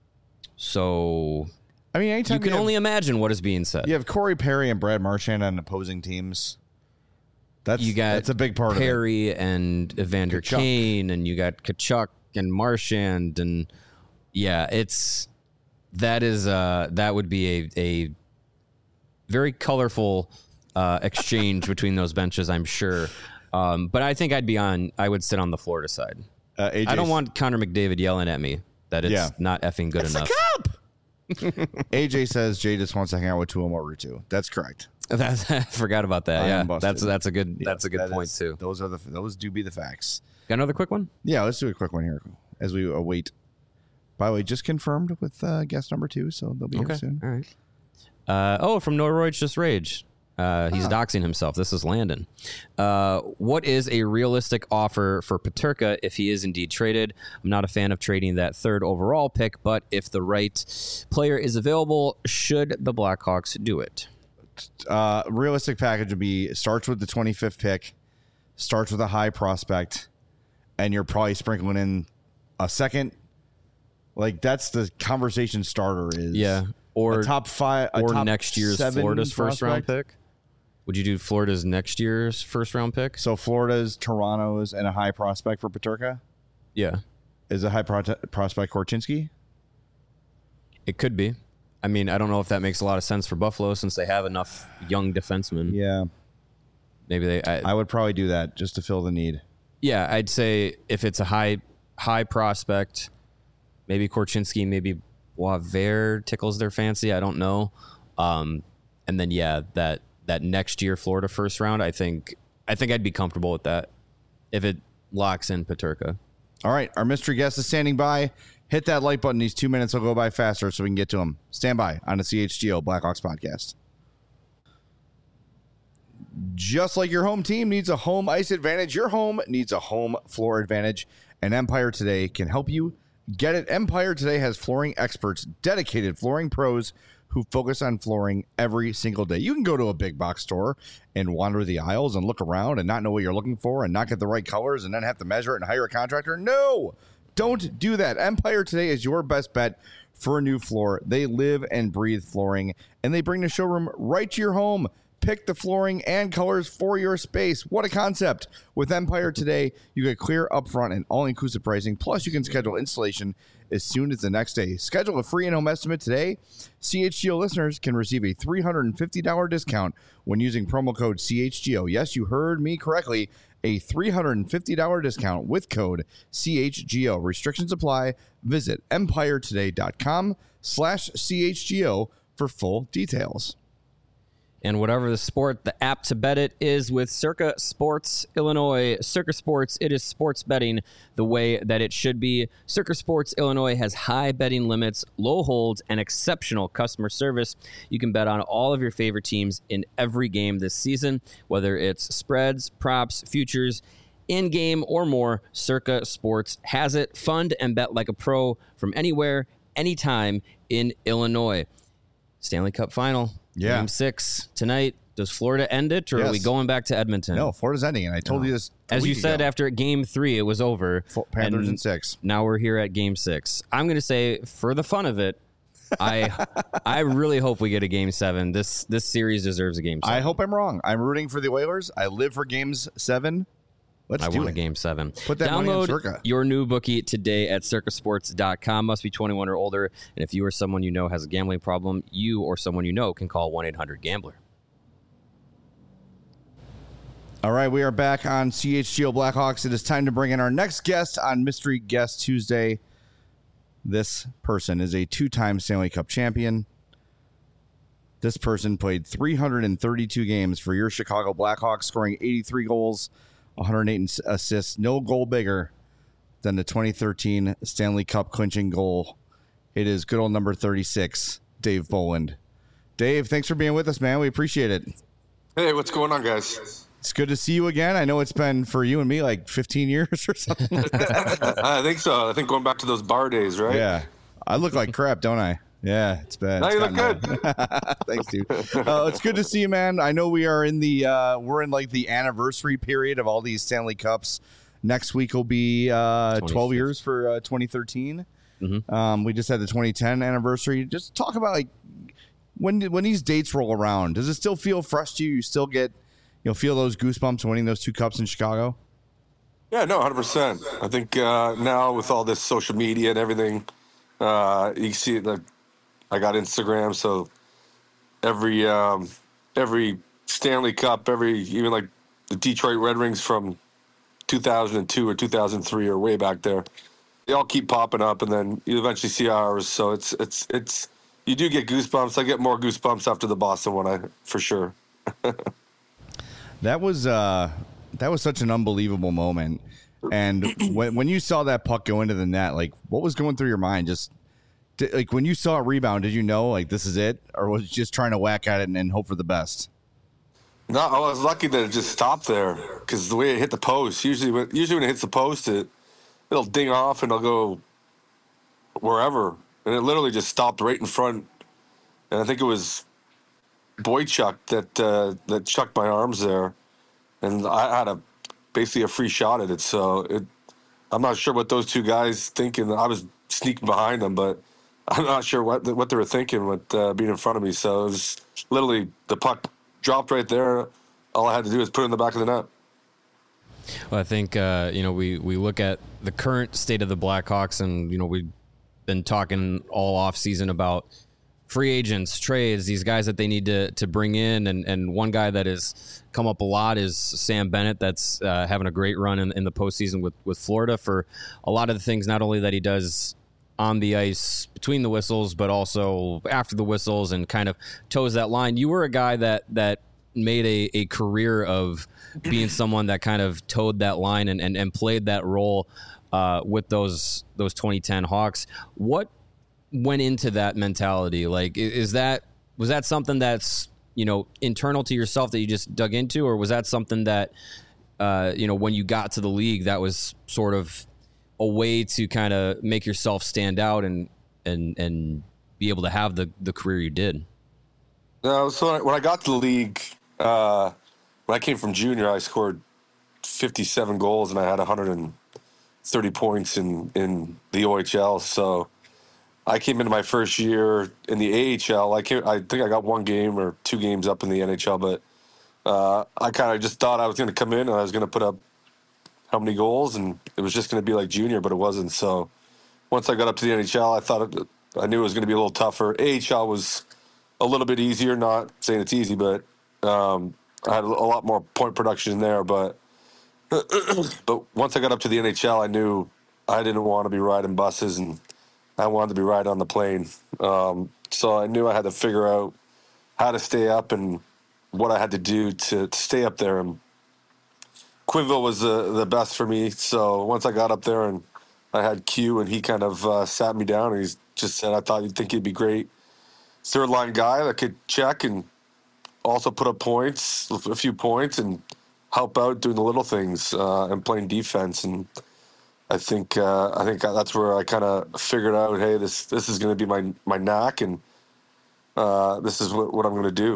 So I mean, anytime you can have, only imagine what is being said. you have Corey Perry and Brad Marchand on opposing teams. That's You got that's a big part of it. Perry and Evander Kachuk. Kane, and you got Kachuk and Marchand, and yeah, it's that is uh that would be a a very colorful uh, exchange between those benches, I'm sure. Um, but I think I'd be on. I would sit on the Florida side. Uh, A J I don't want Connor McDavid yelling at me that it's Yeah. not effing good enough. A J says Jay just wants to hang out with Tuomo Ruutu. That's correct. That's, I forgot about that. I Yeah, am busted. that's that's a good Yes, that's a good that point is- too. Those are the those do be the facts. Got another quick one? Yeah, let's do a quick one here as we await. By the way, just confirmed with uh, guest number two, so they'll be here soon. All right. Uh, oh, from Norwich Just Rage. Uh, he's doxing himself. This is Landon. Uh, what is a realistic offer for Peterka if he is indeed traded? I'm not a fan of trading that third overall pick, but if the right player is available, should the Blackhawks do it? Uh, realistic package would be starts with the twenty-fifth pick, starts with a high prospect, and you're probably sprinkling in a second. Like that's the conversation starter is Yeah. Or a top five a or top next year's seven Florida's first round prospect. pick. Would you do Florida's next year's first round pick? So Florida's, Toronto's, and a high prospect for Peterka Yeah, is a high pro- prospect Korchinski. it could be. I mean, I don't know if that makes a lot of sense for Buffalo since they have enough young defensemen. Yeah, Maybe they. I, I would probably do that just to fill the need. Yeah, I'd say if it's a high high prospect, maybe Korchinski, maybe Boisvert tickles their fancy. I don't know. Um, and then yeah, that that next year Florida first round, I think I think I'd be comfortable with that if it locks in Peterka. All right, our mystery guest is standing by. Hit that like button. These two minutes will go by faster so we can get to him. Stand by on the C H G O Blackhawks podcast. Just like your home team needs a home ice advantage, your home needs a home floor advantage, and Empire Today can help you get it. Empire Today has flooring experts, dedicated flooring pros who focus on flooring every single day. You can go to a big box store and wander the aisles and look around and not know what you're looking for and not get the right colors and then have to measure it and hire a contractor. No, don't do that. Empire Today is your best bet for a new floor. They live and breathe flooring, and they bring the showroom right to your home. Pick the flooring and colors for your space. What a concept. With Empire Today, you get clear upfront and all-inclusive pricing, plus you can schedule installation as soon as the next day. Schedule a free in-home estimate today. C H G O listeners can receive a three hundred fifty dollars discount when using promo code C H G O. Yes, you heard me correctly. a three hundred fifty dollars discount with code C H G O. Restrictions apply. Visit empiretoday.com slash CHGO for full details. And whatever the sport, the app to bet it is with Circa Sports Illinois. Circa Sports, it is sports betting the way that it should be. Circa Sports Illinois has high betting limits, low holds, and exceptional customer service. You can bet on all of your favorite teams in every game this season, whether it's spreads, props, futures, in-game, or more. Circa Sports has it. Fund and bet like a pro from anywhere, anytime in Illinois. Stanley Cup Final. Yeah. Game six tonight. Does Florida end it, or Yes. are we going back to Edmonton? No, Florida's ending, and I told No. you this a As you week said, ago. after game three, it was over. Fo- Panthers and in six. Now we're here at game six. I'm going to say, for the fun of it, I I really hope we get a game seven. This this series deserves a game seven. I hope I'm wrong. I'm rooting for the Oilers. I live for games seven. Let's I do want it. a game seven. Put that money on Download Circa. your new bookie today at circa sports dot com. Must be twenty-one or older. And if you or someone you know has a gambling problem, you or someone you know can call one eight hundred gambler. All right, we are back on C H G O Blackhawks. It is time to bring in our next guest on Mystery Guest Tuesday. This person is a two-time Stanley Cup champion. This person played three hundred thirty-two games for your Chicago Blackhawks, scoring eighty-three goals, one hundred eight assists. No goal bigger than the twenty thirteen Stanley Cup clinching goal. It is good old number thirty-six, Dave Bolland. Dave, thanks for being with us, man. We appreciate it. Hey, what's going on, guys? It's good to see you again. I know it's been for you and me like fifteen years or something. I think so. I think going back to those bar days, right? Yeah. I look like crap, don't I? Yeah, it's bad. Now It's you look gotten old. Thanks, dude. Uh, it's good to see you, man. I know we are in the uh, we're in like the anniversary period of all these Stanley Cups. Next week will be uh, twelve years for uh, twenty thirteen. Mm-hmm. Um, we just had the twenty ten anniversary. Just talk about like when when these dates roll around. Does it still feel fresh to you? You still get you know feel those goosebumps winning those two cups in Chicago? Yeah, no, one hundred percent. I think uh, now with all this social media and everything, uh, you see it. Like, I got Instagram, so every um, every Stanley Cup, every even like the Detroit Red Wings from two thousand two or two thousand three or way back there, they all keep popping up, and then you eventually see ours. So it's it's it's you do get goosebumps. I get more goosebumps after the Boston one, I for sure. That was uh, that was such an unbelievable moment. And when when you saw that puck go into the net, like what was going through your mind? Just did, like when you saw it rebound, did you know like this is it, or was it just trying to whack at it and, and hope for the best? No, I was lucky that it just stopped there because the way it hit the post. Usually, when, usually when it hits the post, it it'll ding off and it'll go wherever, and it literally just stopped right in front. And I think it was Boychuk that uh, that chucked my arms there, and I had a basically a free shot at it. So it, I'm not sure what those two guys thinking. I was sneaking behind them, but I'm not sure what what they were thinking with uh, being in front of me. So it was literally the puck dropped right there. All I had to do was put it in the back of the net. Well, I think uh, you know we we look at the current state of the Blackhawks, and you know we've been talking all off season about free agents, trades, these guys that they need to to bring in, and and one guy that has come up a lot is Sam Bennett. That's uh, having a great run in, in the postseason with with Florida for a lot of the things, not only that he does on the ice between the whistles, but also after the whistles, and kind of toes that line. You were a guy that that made a, a career of being someone that kind of towed that line and, and, and played that role uh, with those those twenty ten Hawks. What went into that mentality? Like, is that was that something that's you know internal to yourself that you just dug into, or was that something that uh, you know when you got to the league that was sort of a way to kind of make yourself stand out and and and be able to have the the career you did? No, so when I got to the league, uh, when I came from junior, I scored fifty-seven goals and I had one hundred thirty points in, in the O H L. So I came into my first year in the A H L. I came, I think I got one game or two games up in the N H L, but uh, I kind of just thought I was going to come in and I was going to put up how many goals, and it was just going to be like junior, but it wasn't. So once I got up to the N H L, I thought it, I knew it was going to be a little tougher. A H L was a little bit easier, not saying it's easy, but um, I had a lot more point production there. But But once I got up to the N H L, I knew I didn't want to be riding buses, and I wanted to be riding on the plane. Um, so I knew I had to figure out how to stay up and what I had to do to, to stay up there. And Quinville was the, the best for me. So once I got up there and I had Q, and he kind of uh, sat me down, and he just said, I thought you'd think you'd be great third line guy that could check and also put up points, a few points, and help out doing the little things uh, and playing defense. And I think uh, I think that's where I kind of figured out, hey, this this is going to be my my knack, and uh, this is what, what I'm going to do.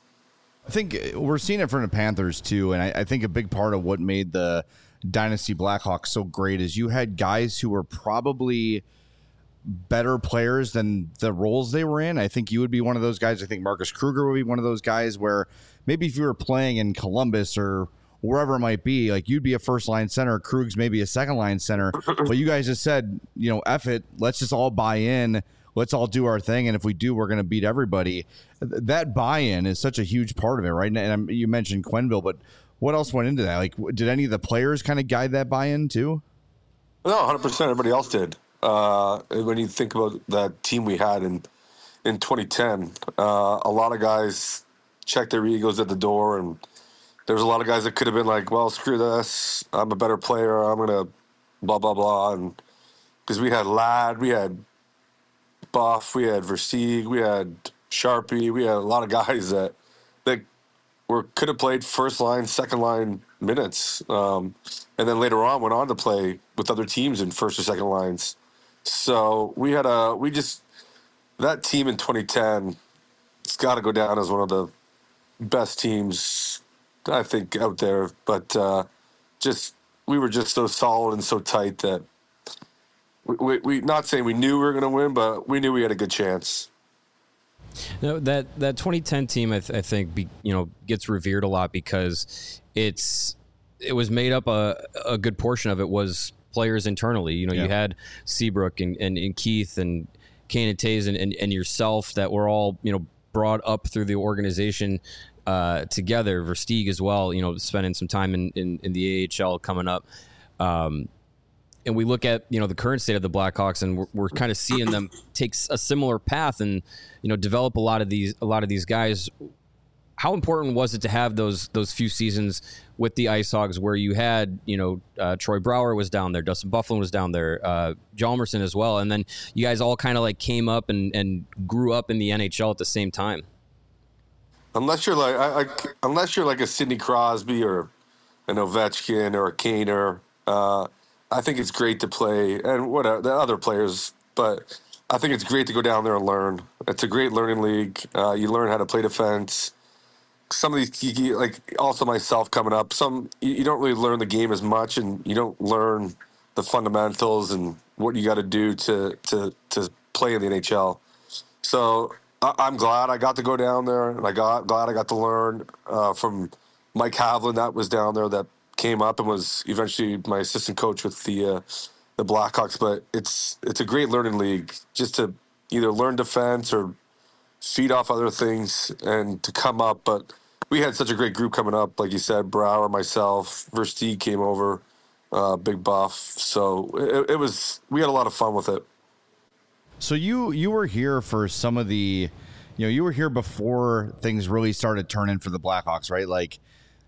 I think we're seeing it from the Panthers too, and I, I think a big part of what made the Dynasty Blackhawks so great is you had guys who were probably better players than the roles they were in. I think you would be one of those guys. I think Marcus Kruger would be one of those guys where maybe if you were playing in Columbus or wherever it might be, like you'd be a first line center, Krug's maybe a second line center, but you guys just said, you know, F it, let's just all buy in. Let's all do our thing. And if we do, we're going to beat everybody. That buy-in is such a huge part of it, right? And you mentioned Quenneville, but what else went into that? Like, did any of the players kind of guide that buy-in too? No, one hundred percent. Everybody else did. Uh, when you think about that team we had in in twenty ten, uh, a lot of guys checked their egos at the door, and there was a lot of guys that could have been like, well, screw this. I'm a better player. I'm going to blah, blah, blah. And because we had Ladd, we had Buff, we had Versteeg, we had Sharpie, we had a lot of guys that that were could have played first line, second line minutes, um, and then later on went on to play with other teams in first or second lines. So we had a we just that team in twenty ten. It's got to go down as one of the best teams I think out there. But uh, just we were just so solid and so tight that. We, we not saying we knew we were going to win, but we knew we had a good chance. No, that that twenty ten team, I, th- I think, be, you know, gets revered a lot because it's it was made up a a good portion of it was players internally. You know, yeah. You had Seabrook and, and, and Keith and Kane and Taze and, and and yourself that were all, you know, brought up through the organization uh, together. Versteeg as well. You know, spending some time in, in, in the A H L coming up. Um, And we look at, you know, the current state of the Blackhawks, and we're, we're kind of seeing them take a similar path and, you know, develop a lot of these a lot of these guys. How important was it to have those those few seasons with the Ice Hogs where you had, you know, uh, Troy Brouwer was down there, Dustin Byfuglien was down there, uh, Hjalmarsson as well, and then you guys all kind of like came up and, and grew up in the N H L at the same time? Unless you're like, I, I, unless you're like a Sidney Crosby or an Ovechkin or a Kaner. Uh, I think it's great to play, and what the other players, but I think it's great to go down there and learn. It's a great learning league. Uh, you learn how to play defense. Some of these, you, like also myself coming up, some you, you don't really learn the game as much, and you don't learn the fundamentals and what you got to do to to to play in the N H L. So I, I'm glad I got to go down there, and I got glad I got to learn uh, from Mike Havlin that was down there that came up and was eventually my assistant coach with the uh, the Blackhawks. But it's it's a great learning league just to either learn defense or feed off other things and to come up. But we had such a great group coming up, like you said, Brouwer, myself, Versteeg came over, uh, Big Buff. So it, it was we had a lot of fun with it. So you you were here for some of the, you know, you were here before things really started turning for the Blackhawks, right? Like.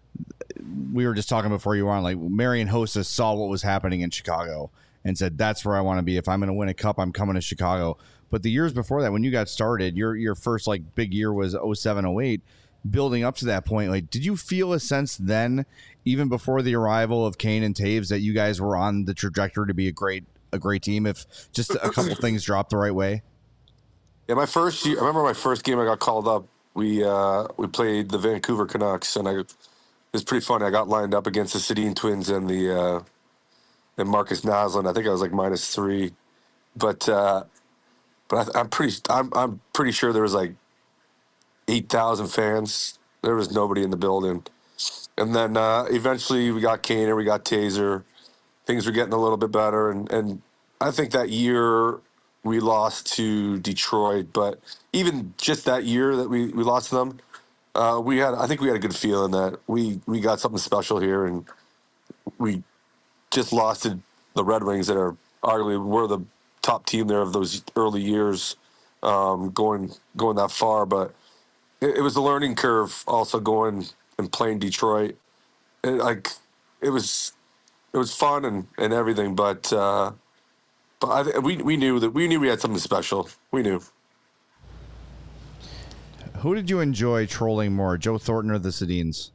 We were just talking before you were on, like Marian Hossa saw what was happening in Chicago and said, that's where I want to be. If I'm going to win a cup, I'm coming to Chicago. But the years before that, when you got started, your your first like big year was oh seven oh eight. Building up to that point, like, did you feel a sense then, even before the arrival of Kane and Taves, that you guys were on the trajectory to be a great a great team if just a couple things dropped the right way? Yeah, my first year, I remember my first game I got called up. We uh, we played the Vancouver Canucks, and I. It was pretty funny. I got lined up against the Sedin twins and the uh, and Marcus Naslund. I think I was like minus three, but uh, but I, I'm pretty I'm I'm pretty sure there was like eight thousand fans. There was nobody in the building, and then uh, eventually we got Kaner, we got Taser. Things were getting a little bit better, and and I think that year we lost to Detroit, but even just that year that we we lost to them. Uh, we had, I think we had a good feeling that we, we got something special here, and we just lost to the Red Wings that are arguably were the top team there of those early years, um, going going that far. But it, it was a learning curve also going and playing Detroit. It, like it was it was fun and, and everything, but uh, but I, we we knew that we knew we had something special. We knew. Who did you enjoy trolling more, Joe Thornton or the Sedins?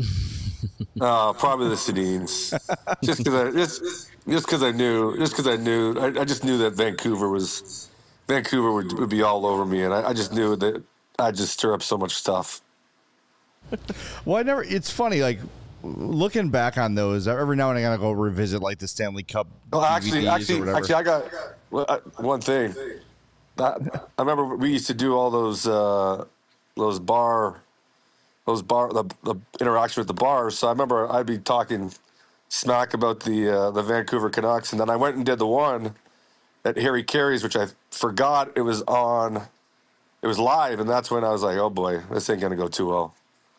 Uh, probably the Sedins. Just because I just just because I knew just because I knew I, I just knew that Vancouver was Vancouver would, would be all over me, and I, I just knew that I'd just stir up so much stuff. Well, I never. It's funny, like looking back on those. Every now and then I gotta go revisit like the Stanley Cup. Well, actually, D V Ds or actually, whatever. actually, I got well, I, one thing. That, I remember we used to do all those uh, those bar. Those bar the, the interaction with the bars. So I remember I'd be talking smack about the uh, the Vancouver Canucks, and then I went and did the one at Harry Carey's, which I forgot it was on. It was live, and that's when I was like, "Oh boy, this ain't gonna go too well."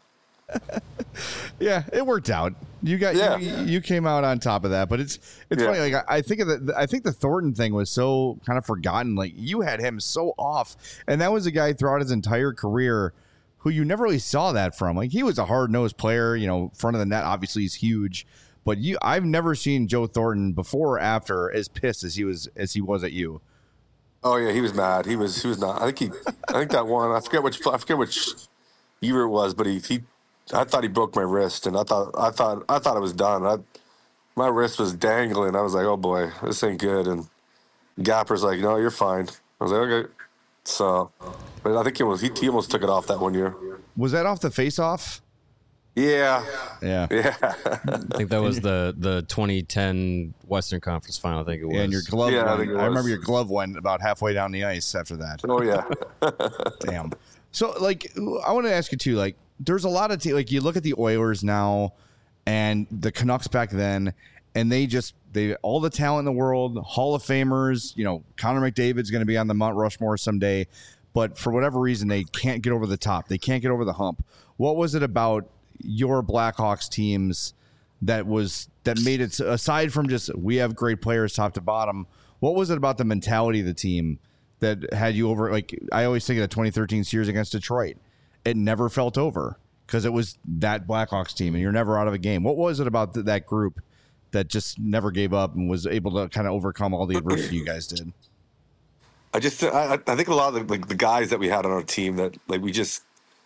Yeah, it worked out. You got Yeah. you, you came out on top of that, but it's it's Yeah. funny. Like I, I think of the I think the Thornton thing was so kind of forgotten. Like you had him so off, and that was a guy throughout his entire career who you never really saw that from. Like he was a hard nosed player, you know, front of the net. Obviously, he's huge, but you I've never seen Joe Thornton before or after as pissed as he was as he was at you. Oh yeah, he was mad. He was he was not. I think he. I think that one. I forget which. I forget which year it was, but he he. I thought he broke my wrist, and I thought I thought I thought it was done. I, my wrist was dangling. I was like, oh boy, this ain't good. And Gapper's like, no, you're fine. I was like, okay. So, but I think he was he, he almost took it off that one year. Was that off the face off? Yeah, Yeah. yeah, I think that was the the twenty ten Western Conference Final. I think it was. Yeah, and your glove. Yeah, I went, think it I remember was. your glove went about halfway down the ice after that. oh yeah. Damn. So, like, I want to ask you too. Like, there's a lot of te- like you look at the Oilers now, and the Canucks back then, and they just they all the talent in the world, Hall of Famers. You know, Connor McDavid's going to be on the Mount Rushmore someday, but for whatever reason, they can't get over the top. They can't get over the hump. What was it about your Blackhawks teams that was that made it, aside from just we have great players top to bottom? What was it about the mentality of the team that had you over? Like I always think of the twenty thirteen series against Detroit. It never felt over because it was that Blackhawks team, and you're never out of a game. What was it about th- that group that just never gave up and was able to kind of overcome all the adversity you guys did? I just I, I think a lot of the, like the guys that we had on our team that like we just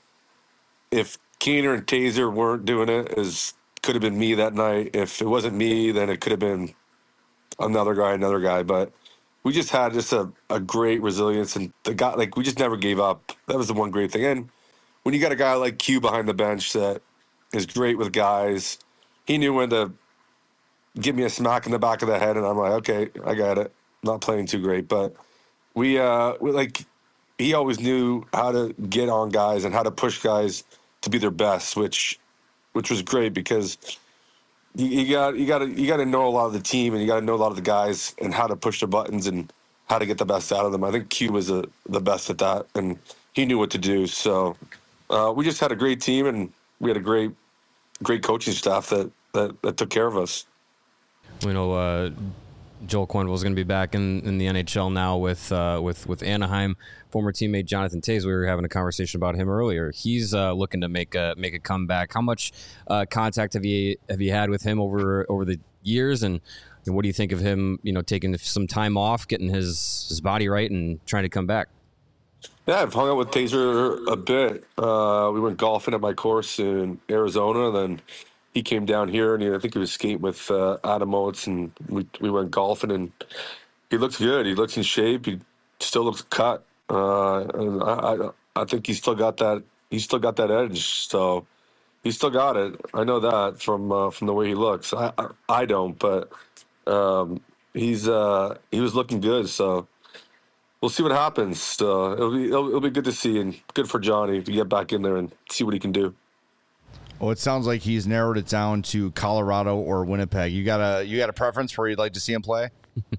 if Keener and Taser weren't doing it, as could have been me that night. If it wasn't me, then it could have been another guy, another guy. But we just had just a, a great resilience, and the guy like we just never gave up. That was the one great thing. And when you got a guy like Q behind the bench that is great with guys, he knew when to give me a smack in the back of the head, and I'm like, okay, I got it. Not playing too great, but we uh we like he always knew how to get on guys and how to push guys to be their best, which which was great because you, you got you got to you got to know a lot of the team and you got to know a lot of the guys and how to push their buttons and how to get the best out of them. I think Q was a, the best at that, and he knew what to do. So uh, we just had a great team, and we had a great great coaching staff that that, that took care of us. You know, uh, Joel Quenneville is going to be back in, in the N H L now with uh, with with Anaheim. Former teammate Jonathan Toews, we were having a conversation about him earlier. He's uh, looking to make a make a comeback. How much uh, contact have you have you had with him over over the years, and, and what do you think of him? You know, taking some time off, getting his his body right, and trying to come back. Yeah, I've hung out with Taser a bit. Uh, we went golfing at my course in Arizona, then he came down here, and he, I think he was skating with uh, Adam Oates, and we we went golfing, and he looks good. He looks in shape. He still looks cut. Uh, and I, I I think he's still got that. He's still got that edge. So he's still got it. I know that from uh, from the way he looks. I I, I don't, but um, he's uh, he was looking good. So we'll see what happens. So it'll be it'll, it'll be good to see, and good for Johnny to get back in there and see what he can do. Well, it sounds like he's narrowed it down to Colorado or Winnipeg. You got a you got a preference where you'd like to see him play?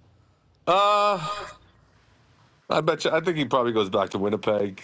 Uh, I bet you. I think he probably goes back to Winnipeg.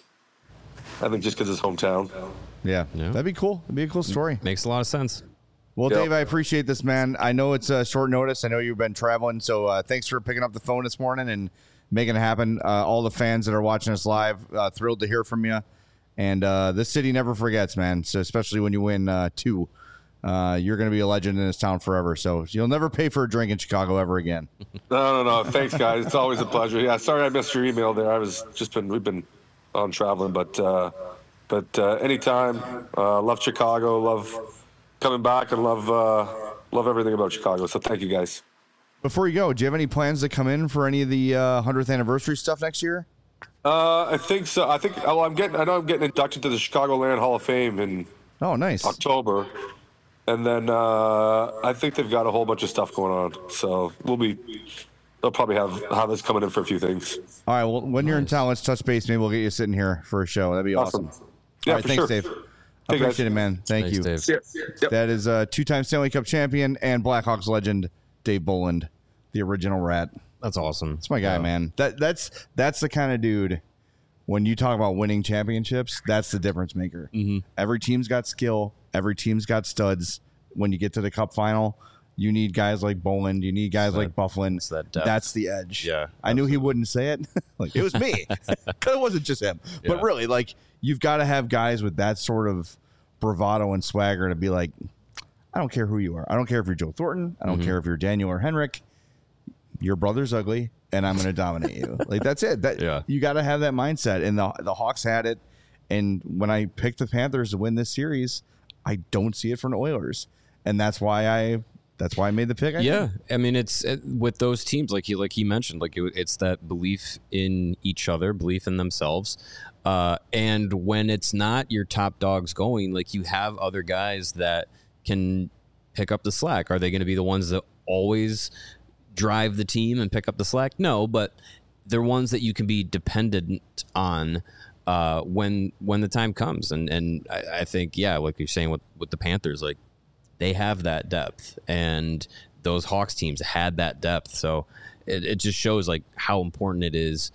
I think just because his hometown. Yeah, Yeah. that'd be cool. That'd be a cool story. Makes a lot of sense. Well, Yep. Dave, I appreciate this, man. I know it's a short notice. I know you've been traveling, so uh, thanks for picking up the phone this morning and making it happen. Uh, all the fans that are watching us live, uh, thrilled to hear from you. And uh, this city never forgets, man. So especially when you win uh, two, uh, you're going to be a legend in this town forever. So you'll never pay for a drink in Chicago ever again. No, no, no. Thanks, guys. It's always a pleasure. Yeah, sorry I missed your email there. I was just been we've been on traveling, but uh, but uh, anytime. Uh, love Chicago. Love coming back, and love uh, love everything about Chicago. So thank you, guys. Before you go, do you have any plans to come in for any of the uh, hundredth anniversary stuff next year? Uh, I think so. I think. Well, I'm getting. I know I'm getting inducted to the Chicagoland Hall of Fame in Oh, nice. October, and then uh, I think they've got a whole bunch of stuff going on. So we'll be. They'll probably have have us coming in for a few things. All right. Well, when you're in town, let's touch base. Maybe we'll get you sitting here for a show. That'd be awesome. Awesome. All Yeah, right. for Thanks, sure. Dave. I Hey, guys. appreciate it, man. Thank Thanks, you. Dave. Yeah. Yep. That is a two-time Stanley Cup champion and Blackhawks legend, Dave Boland, the original Rat. That's awesome. That's my guy, Yeah. man. That that's that's the kind of dude. When you talk about winning championships, that's the difference maker. Mm-hmm. Every team's got skill. Every team's got studs. When you get to the Cup final, you need guys like Boland. You need guys It's like that- Bufflin. it's that depth. That's the edge. Yeah, I knew he wouldn't say it. Like it was me. 'Cause it wasn't just him. But Yeah. really, like you've got to have guys with that sort of bravado and swagger to be like, I don't care who you are. I don't care if you're Joe Thornton. I don't Mhm. care if you're Daniel or Henrik. Your brother's ugly, and I'm going to dominate you. Like that's it. That Yeah. you got to have that mindset. And the the Hawks had it. And when I picked the Panthers to win this series, I don't see it from the Oilers, and that's why I that's why I made the pick. I Yeah, did. I mean, it's it, with those teams, like he like he mentioned, like it, it's that belief in each other, belief in themselves, uh, and when it's not your top dogs going, like you have other guys that can pick up the slack. Are they going to be the ones that always drive the team and pick up the slack? No, but they're ones that you can be dependent on uh, when when the time comes. And and I, I think yeah, like you're saying with with the Panthers, like. They have that depth, and those Hawks teams had that depth. So it, it just shows like how important it is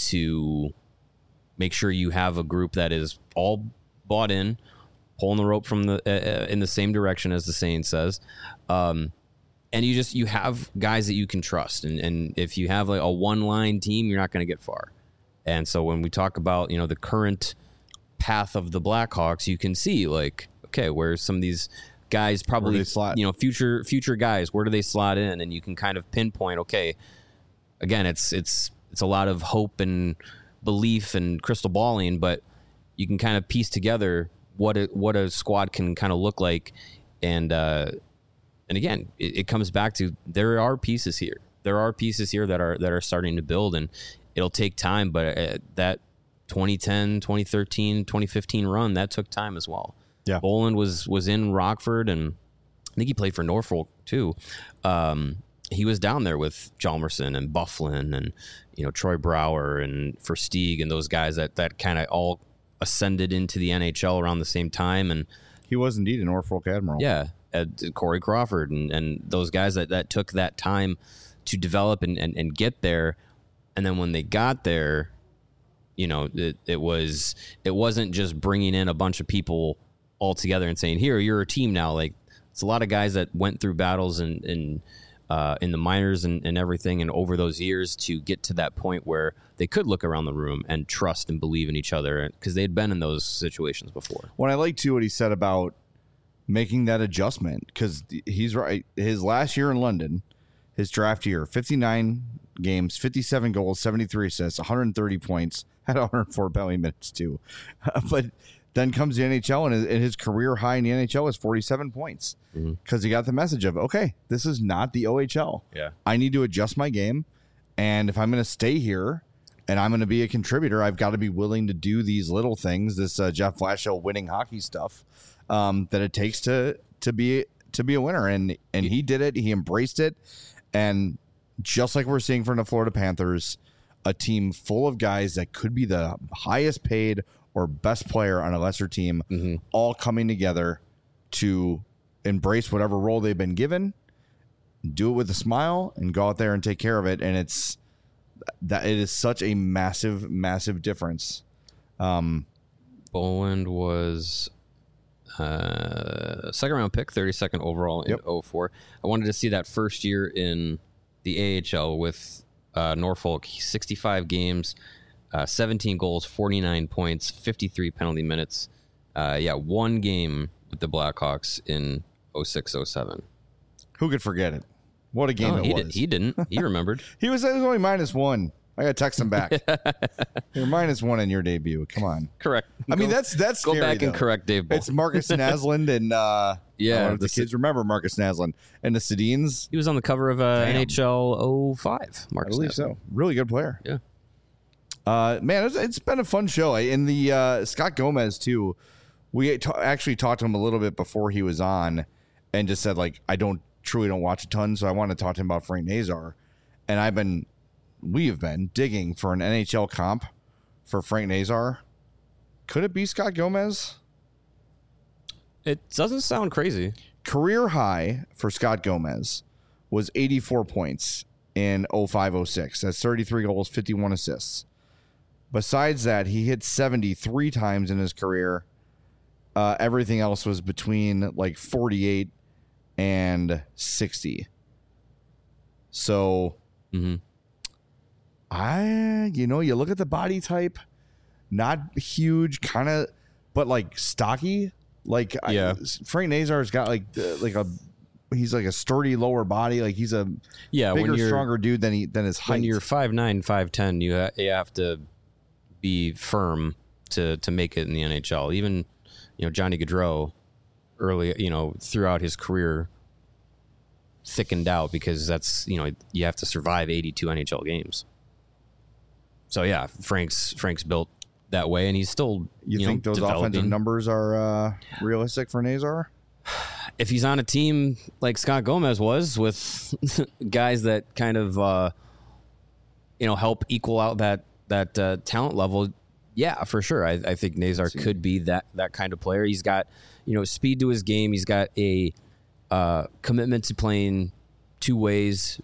to make sure you have a group that is all bought in, pulling the rope from the uh, in the same direction as the saying says, um, and you just you have guys that you can trust. And and if you have like a one line team, you're not going to get far. And so when we talk about you know the current path of the Blackhawks, you can see like okay, where some of these guys probably they slot? you know future future guys, where do they slot in, and you can kind of pinpoint okay, again it's it's it's a lot of hope and belief and crystal balling, but you can kind of piece together what a what a squad can kind of look like. And uh and again it, it comes back to there are pieces here there are pieces here that are that are starting to build, and it'll take time, but uh, that twenty ten, twenty thirteen, twenty fifteen run, that took time as well. Yeah. Boland was was in Rockford, and I think he played for Norfolk too. Um, he was down there with Hjalmarsson and Bufflin and you know Troy Brower and Versteeg and those guys that that kind of all ascended into the N H L around the same time. And He was indeed a Norfolk Admiral. yeah, uh, Corey Crawford and, and those guys that, that took that time to develop and, and, and get there. And then when they got there, you know, it, it was it wasn't just bringing in a bunch of people all together and saying, here, you're a team now. Like it's a lot of guys that went through battles and, and uh, in the minors and, and everything, and over those years to get to that point where they could look around the room and trust and believe in each other because they'd been in those situations before. When I like too what he said about making that adjustment, because he's right. His last year in London, his draft year, fifty-nine games, fifty-seven goals, seventy-three assists, one hundred thirty points, had one hundred four penalty minutes too. But then comes the N H L, and his, and his career high in the N H L is forty-seven points because Mhm. he got the message of, okay, this is not the O H L. Yeah. I need to adjust my game. And if I'm going to stay here and I'm going to be a contributor, I've got to be willing to do these little things, this uh, Jeff Blashill winning hockey stuff um, that it takes to to be to be a winner. And and he did it. He embraced it. And just like we're seeing from the Florida Panthers, a team full of guys that could be the highest paid or best player on a lesser team, Mm-hmm. all coming together to embrace whatever role they've been given, do it with a smile, and go out there and take care of it. And it's that it is such a massive, massive difference. Um, Boland was uh, second round pick, thirty-second overall in Yep. oh four. I wanted to see that first year in the A H L with uh, Norfolk, sixty-five games, uh, seventeen goals, forty-nine points, fifty-three penalty minutes. Uh, yeah, one game with the Blackhawks in oh six oh seven. Who could forget it? What a game No, it he, was. did, he didn't. He remembered. He was, it was only minus one. I got to text him back. You're minus one in your debut. Come on. Correct. I mean, Go- that's that's Go scary, back and though. correct Dave Bull. It's Marcus Naslund and uh, Yeah, I don't know if the the kids remember Marcus Naslund and the Sedins. He was on the cover of uh, Damn. N H L oh five. I Marcus believe Naslund. so. Really good player. Yeah. Uh, man, it's, it's been a fun show. In the uh, Scott Gomez too, we ta- actually talked to him a little bit before he was on, and just said like, I don't truly don't watch a ton, so I want to talk to him about Frank Nazar, and I've been, we have been digging for an N H L comp for Frank Nazar. Could it be Scott Gomez? It doesn't sound crazy. Career high for Scott Gomez was eighty-four points in oh five oh six. That's thirty-three goals, fifty-one assists. Besides that, he hit seventy-three times in his career. Uh, everything else was between like forty-eight and sixty. So, Mm-hmm. I, you know, you look at the body type, not huge, kind of, but like stocky. Like, Yeah. I, Frank Nazar's got like uh, like a, he's like a sturdy lower body. Like he's a Yeah, bigger, when you're stronger dude than he than his height. when you're five nine, five ten, you ha- you have to be firm to to make it in the N H L. Even you know Johnny Gaudreau, early you know throughout his career, thickened out because that's you know you have to survive eighty-two N H L games. So yeah, Frank's Frank's built that way, and he's still you, you think know, those offensive developing. numbers are uh, realistic for Nazar? If he's on a team like Scott Gomez was, with guys that kind of uh, you know help equal out that that uh, talent level, yeah, for sure. I, I think Nazar could be that that kind of player. He's got you know speed to his game. He's got a uh, commitment to playing two ways.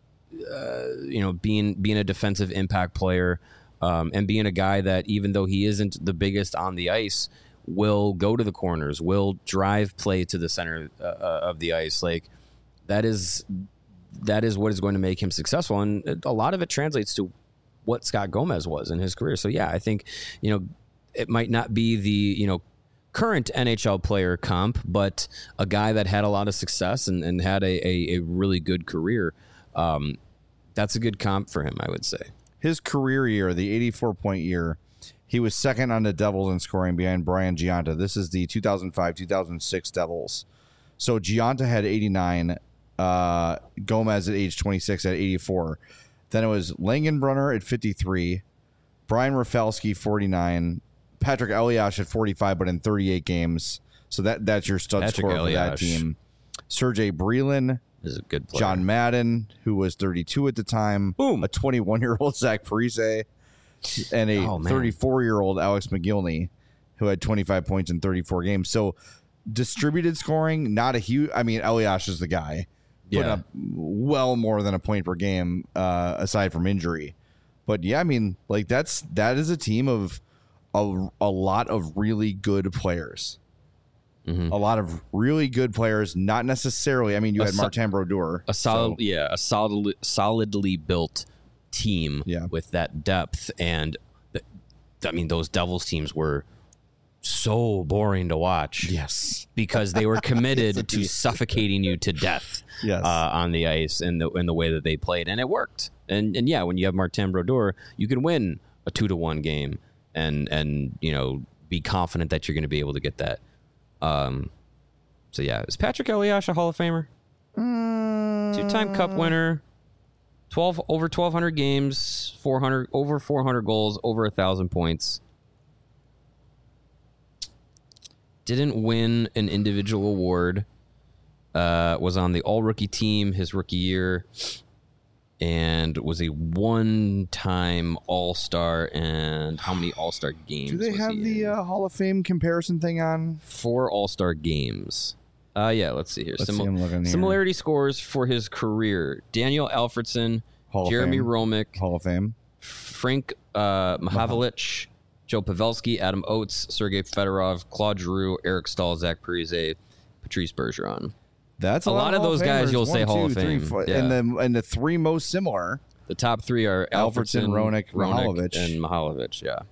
Uh, you know, being being a defensive impact player, um, and being a guy that even though he isn't the biggest on the ice, will go to the corners, will drive play to the center uh, of the ice. Like that is that is what is going to make him successful, and a lot of it translates to what Scott Gomez was in his career. So yeah, I think you know it might not be the you know current N H L player comp, but a guy that had a lot of success and, and had a, a, a really good career. Um, that's a good comp for him, I would say. His career year, the eighty-four point year, he was second on the Devils in scoring behind Brian Giunta. This is the two thousand five two thousand six Devils. So Giunta had eighty-nine, uh, Gomez at age twenty-six at eighty-four. Then it was Langenbrunner at fifty-three, Brian Rafalski forty-nine, Patrick Elias at forty-five, but in thirty-eight games. So that that's your stud Patrick scorer for that Elias. team. Sergei Brelin, Is a good player. John Madden, who was thirty-two at the time, Boom. a twenty-one-year-old Zach Parise, and a Oh, man. thirty-four-year-old Alex McGillney, who had twenty-five points in thirty-four games. So distributed scoring, not a huge. I mean, Elias is the guy, putting Yeah. up well more than a point per game, uh, aside from injury. But yeah, I mean, like that's that is a team of a, a lot of really good players. Mhm. A lot of really good players, not necessarily. I mean, you A had so- Martin Brodeur, a solid, so- yeah, a solid, solidly built team Yeah. with that depth. And th- I mean, those Devils teams were so boring to watch. Yes. Because they were committed to Indeed. suffocating you to death Yes. uh, on the ice and the in the way that they played, and it worked. And and yeah, when you have Martin Brodeur, you can win a two to one game, and and you know be confident that you're going to be able to get that. Um, so yeah, is Patrick Elias a Hall of Famer? Two-time Cup winner, twelve over twelve hundred games, four hundred over four hundred goals, over a thousand points. Didn't win an individual award. Uh, was on the All-Rookie team his rookie year, and was a one-time All-Star. And how many All-Star games? Do they was have he the in? uh, Hall of Fame comparison thing on? Four All-Star games. Uh, yeah, let's see here. Let's see, I'm looking here. Similarity scores for his career. Daniel Alfredson, Hall of Jeremy Fame. Romick, Hall of Fame. Frank uh, Mahavlich, Joe Pavelski, Adam Oates, Sergei Fedorov, Claude Giroux, Eric Stahl, Zach Parise, Patrice Bergeron. That's a, A lot, lot of Hall those Famers. guys you'll One, say Hall two, of three, Fame. four- Yeah. And the and the three most similar. The top three are Alfredson, Alfredson, Roenick, Mihalovic. and Mihalovic. Yeah.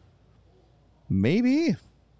Maybe.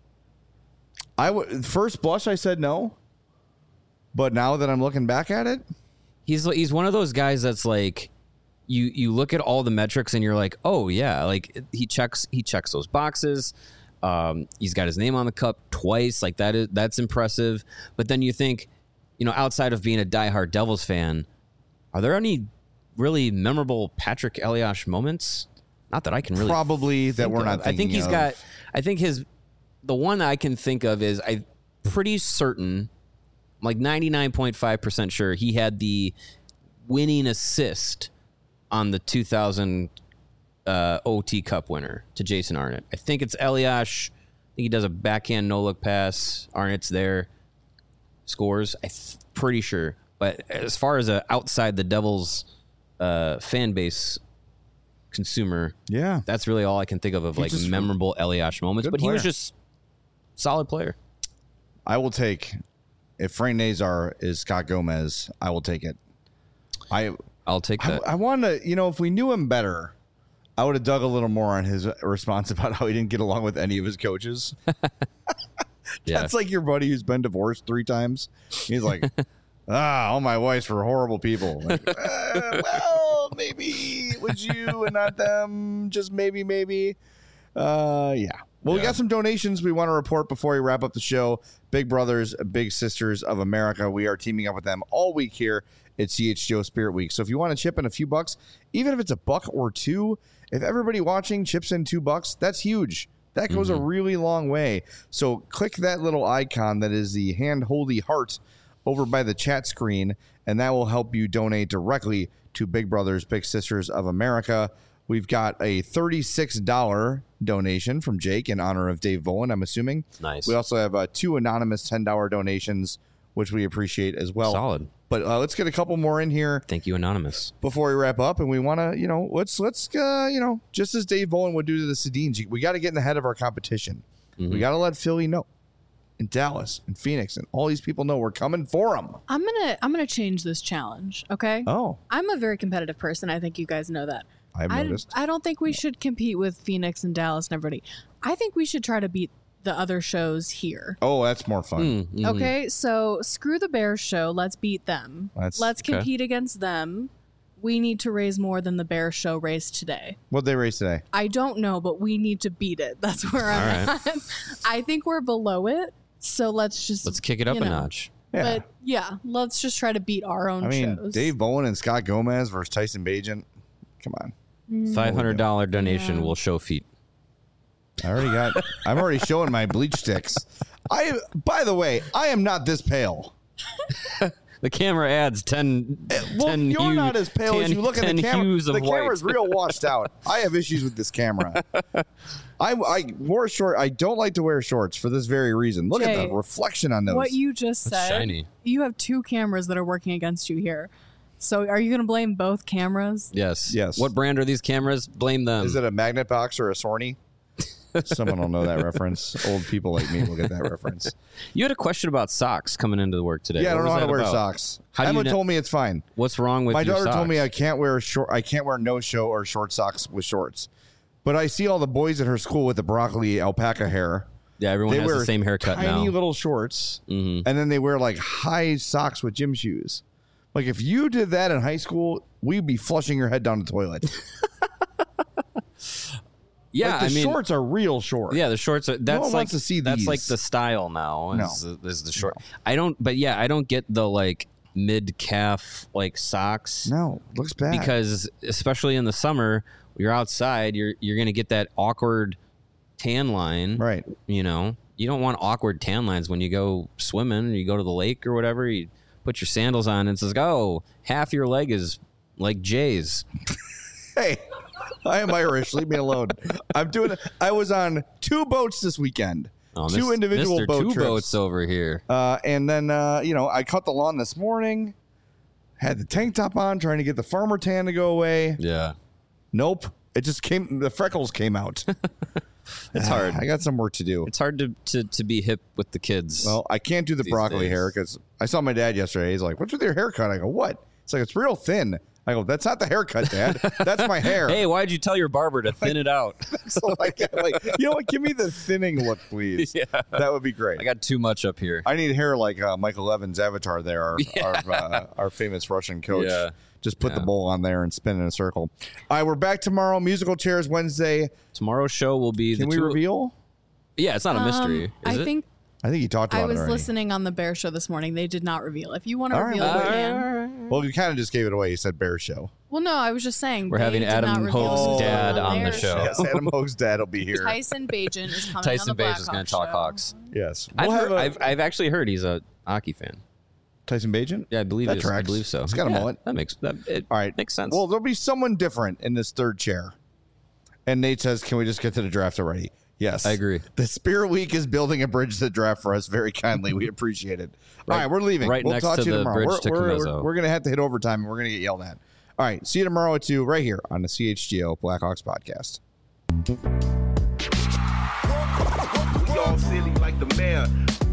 I would first blush I said no. But now that I'm looking back at it, He's he's one of those guys that's like you you look at all the metrics and you're like, oh yeah, like he checks he checks those boxes. Um, he's got his name on the cup twice, like that is that's impressive. But then you think, you know, outside of being a diehard Devils fan, are there any really memorable Patrick Elias moments? Not that I can really probably that think we're of. not I thinking think he's of. got. I think his the one I can think of is I'm pretty certain. I'm like ninety-nine point five percent sure he had the winning assist on the two thousand uh, O T Cup winner to Jason Arnott. I think it's Elias. I think he does a backhand no-look pass. Arnott's there. Scores. I'm pretty sure. But as far as a outside the Devils uh, fan base consumer, Yeah. that's really all I can think of of He's like just a memorable Elias moments. good But he was player. just solid player. I will take if Frank Nazar is Scott Gomez, I will take it. I I'll take I, that. I want to, you know, if we knew him better, I would have dug a little more on his response about how he didn't get along with any of his coaches. Yeah. That's like your buddy who's been divorced three times. He's like, ah, all my wives were horrible people. Like, uh, well, maybe it was you and not them. Just maybe, maybe. Uh, yeah. Well, we Yeah. got some donations we want to report before we wrap up the show. Big Brothers, Big Sisters of America. We are teaming up with them all week here at C H G O Spirit Week. So if you want to chip in a few bucks, even if it's a buck or two, if everybody watching chips in two bucks, that's huge. That goes Mm-hmm. a really long way. So click that little icon that is the hand holy heart over by the chat screen, and that will help you donate directly to Big Brothers Big Sisters of America. We've got a thirty-six dollars donation from Jake in honor of Dave Volen, I'm assuming. Nice. We also have uh, two anonymous ten dollars donations, which we appreciate as well. Solid. But uh, let's get a couple more in here Thank you, Anonymous. before we wrap up, and we want to, you know, let's let's uh, you know, just as Dave Volen would do to the Sedins, we got to get in the head of our competition. Mm-hmm. We got to let Philly know, and Dallas, and Phoenix, and all these people know we're coming for them. I'm gonna I'm gonna change this challenge. Okay. Oh, I'm a very competitive person. I think you guys know that. I've I, noticed. I don't think we should compete with Phoenix and Dallas and everybody. I think we should try to beat the other shows here. Oh, that's more fun. Mm, mhm. Okay, so screw the Bears show. Let's beat them. That's- Let's okay. compete against them. We need to raise more than the Bears show raised today. What'd they race today? I don't know, but we need to beat it. That's where I'm All at. I think we're below it. So let's just Let's kick it up you a know. notch. Yeah. But yeah, let's just try to beat our own I mean, shows. Dave Bowen and Scott Gomez versus Tyson Bagent. Come on. Five hundred dollar donation Yeah. will show feet. I already got. I'm already showing my bleach sticks. I. By the way, I am not this pale. The camera adds ten. Well, ten you're hue- not as pale as ten- you look in ten the camera. hues of The white. camera's real washed out. I have issues with this camera. I, I wore short. I don't like to wear shorts for this very reason. Look at Jay, the reflection on those. what you just That's said, shiny. you have two cameras that are working against you here. So are you going to blame both cameras? Yes. Yes. What brand are these cameras? Blame them. Is it a magnet box or a Sony? Someone will know that reference. Old people like me will get that reference. You had a question about socks coming into the work today. Yeah, I What don't know was how to that wear about? socks. How do you Emma know- told me it's fine. What's wrong with My your daughter told me I socks? can't wear short. I can't wear no show or short socks with shorts. But I see all the boys at her school with the broccoli alpaca hair. Yeah, everyone They has wear the same haircut tiny now. little shorts, Mhm. and then they wear like high socks with gym shoes. Like if you did that in high school, we'd be flushing your head down the toilet. Yeah, like the I mean, shorts are real short. yeah, the shorts are. That's one like wants to see that's like these. the style now. No. Is, is the short? I don't. But yeah, I don't get the like mid calf like socks. No, looks bad. Because especially in the summer, you're outside, you're you're gonna get that awkward tan line. right. You know, you don't want awkward tan lines when you go swimming. You go to the lake or whatever. You put your sandals on and it says, "Oh, half your leg is like Jay's." Hey, I am Irish. Leave me alone. I'm doing. I was on two boats this weekend. Oh, two Mis- individual Mister boat two trips. boats over here. Uh, and then, uh, you know, I cut the lawn this morning, had the tank top on, trying to get the farmer tan to go away. Yeah. Nope. It just came, the freckles came out. It's hard. I got some work to do. It's hard to, to, to be hip with the kids. Well, I can't do the these broccoli days. hair because I saw my dad yesterday. He's like, "What's with your haircut?" I go, "What?" It's like, "It's real thin." I go, "That's not the haircut, Dad. That's my hair." Hey, why'd you tell your barber to thin it out? So like, like, you know what? Give me the thinning look, please. Yeah. That would be great. I got too much up here. I need hair like uh, Michael Evans' Avatar there, our, our, uh, our famous Russian coach. Yeah. Just put the Yeah. bowl on there and spin in a circle. All right, we're back tomorrow. Musical Chairs Wednesday. Tomorrow's show will be Can the we two- reveal? Yeah, it's not a mystery. Um, is I it? think I think you talked about I was it already. listening on the Bear Show this morning. They did not reveal. If you want to All right, reveal, well, you wait. can. Well, you kind of just gave it away. You said Bear Show. Well, no, I was just saying. We're they having did Adam not reveal Hope's who's dad on on the their show. Yes, Adam Hope's dad will be here. Tyson Bajan is coming Tyson on the Bajan is going to talk Hawks. Yes. I've, We'll have heard, a- I've, I've actually heard he's a hockey fan. Tyson Bajan? Yeah, I believe That it is. I tracks. believe so. He's got a Yeah, mullet. That makes that it All right. makes sense. Well, there'll be someone different in this third chair. And Nate says, "Can we just get to the draft already?" Yes. I agree. The Spirit Week is building a bridge to the draft for us very kindly. We appreciate it. All Right- right, we're leaving. right we'll next talk to to you the tomorrow. bridge we're to we're, Comiso. we're, we're going to have to hit overtime and we're going to get yelled at. All right. See you tomorrow at two right here on the C H G O Blackhawks podcast. We all silly like the mayor.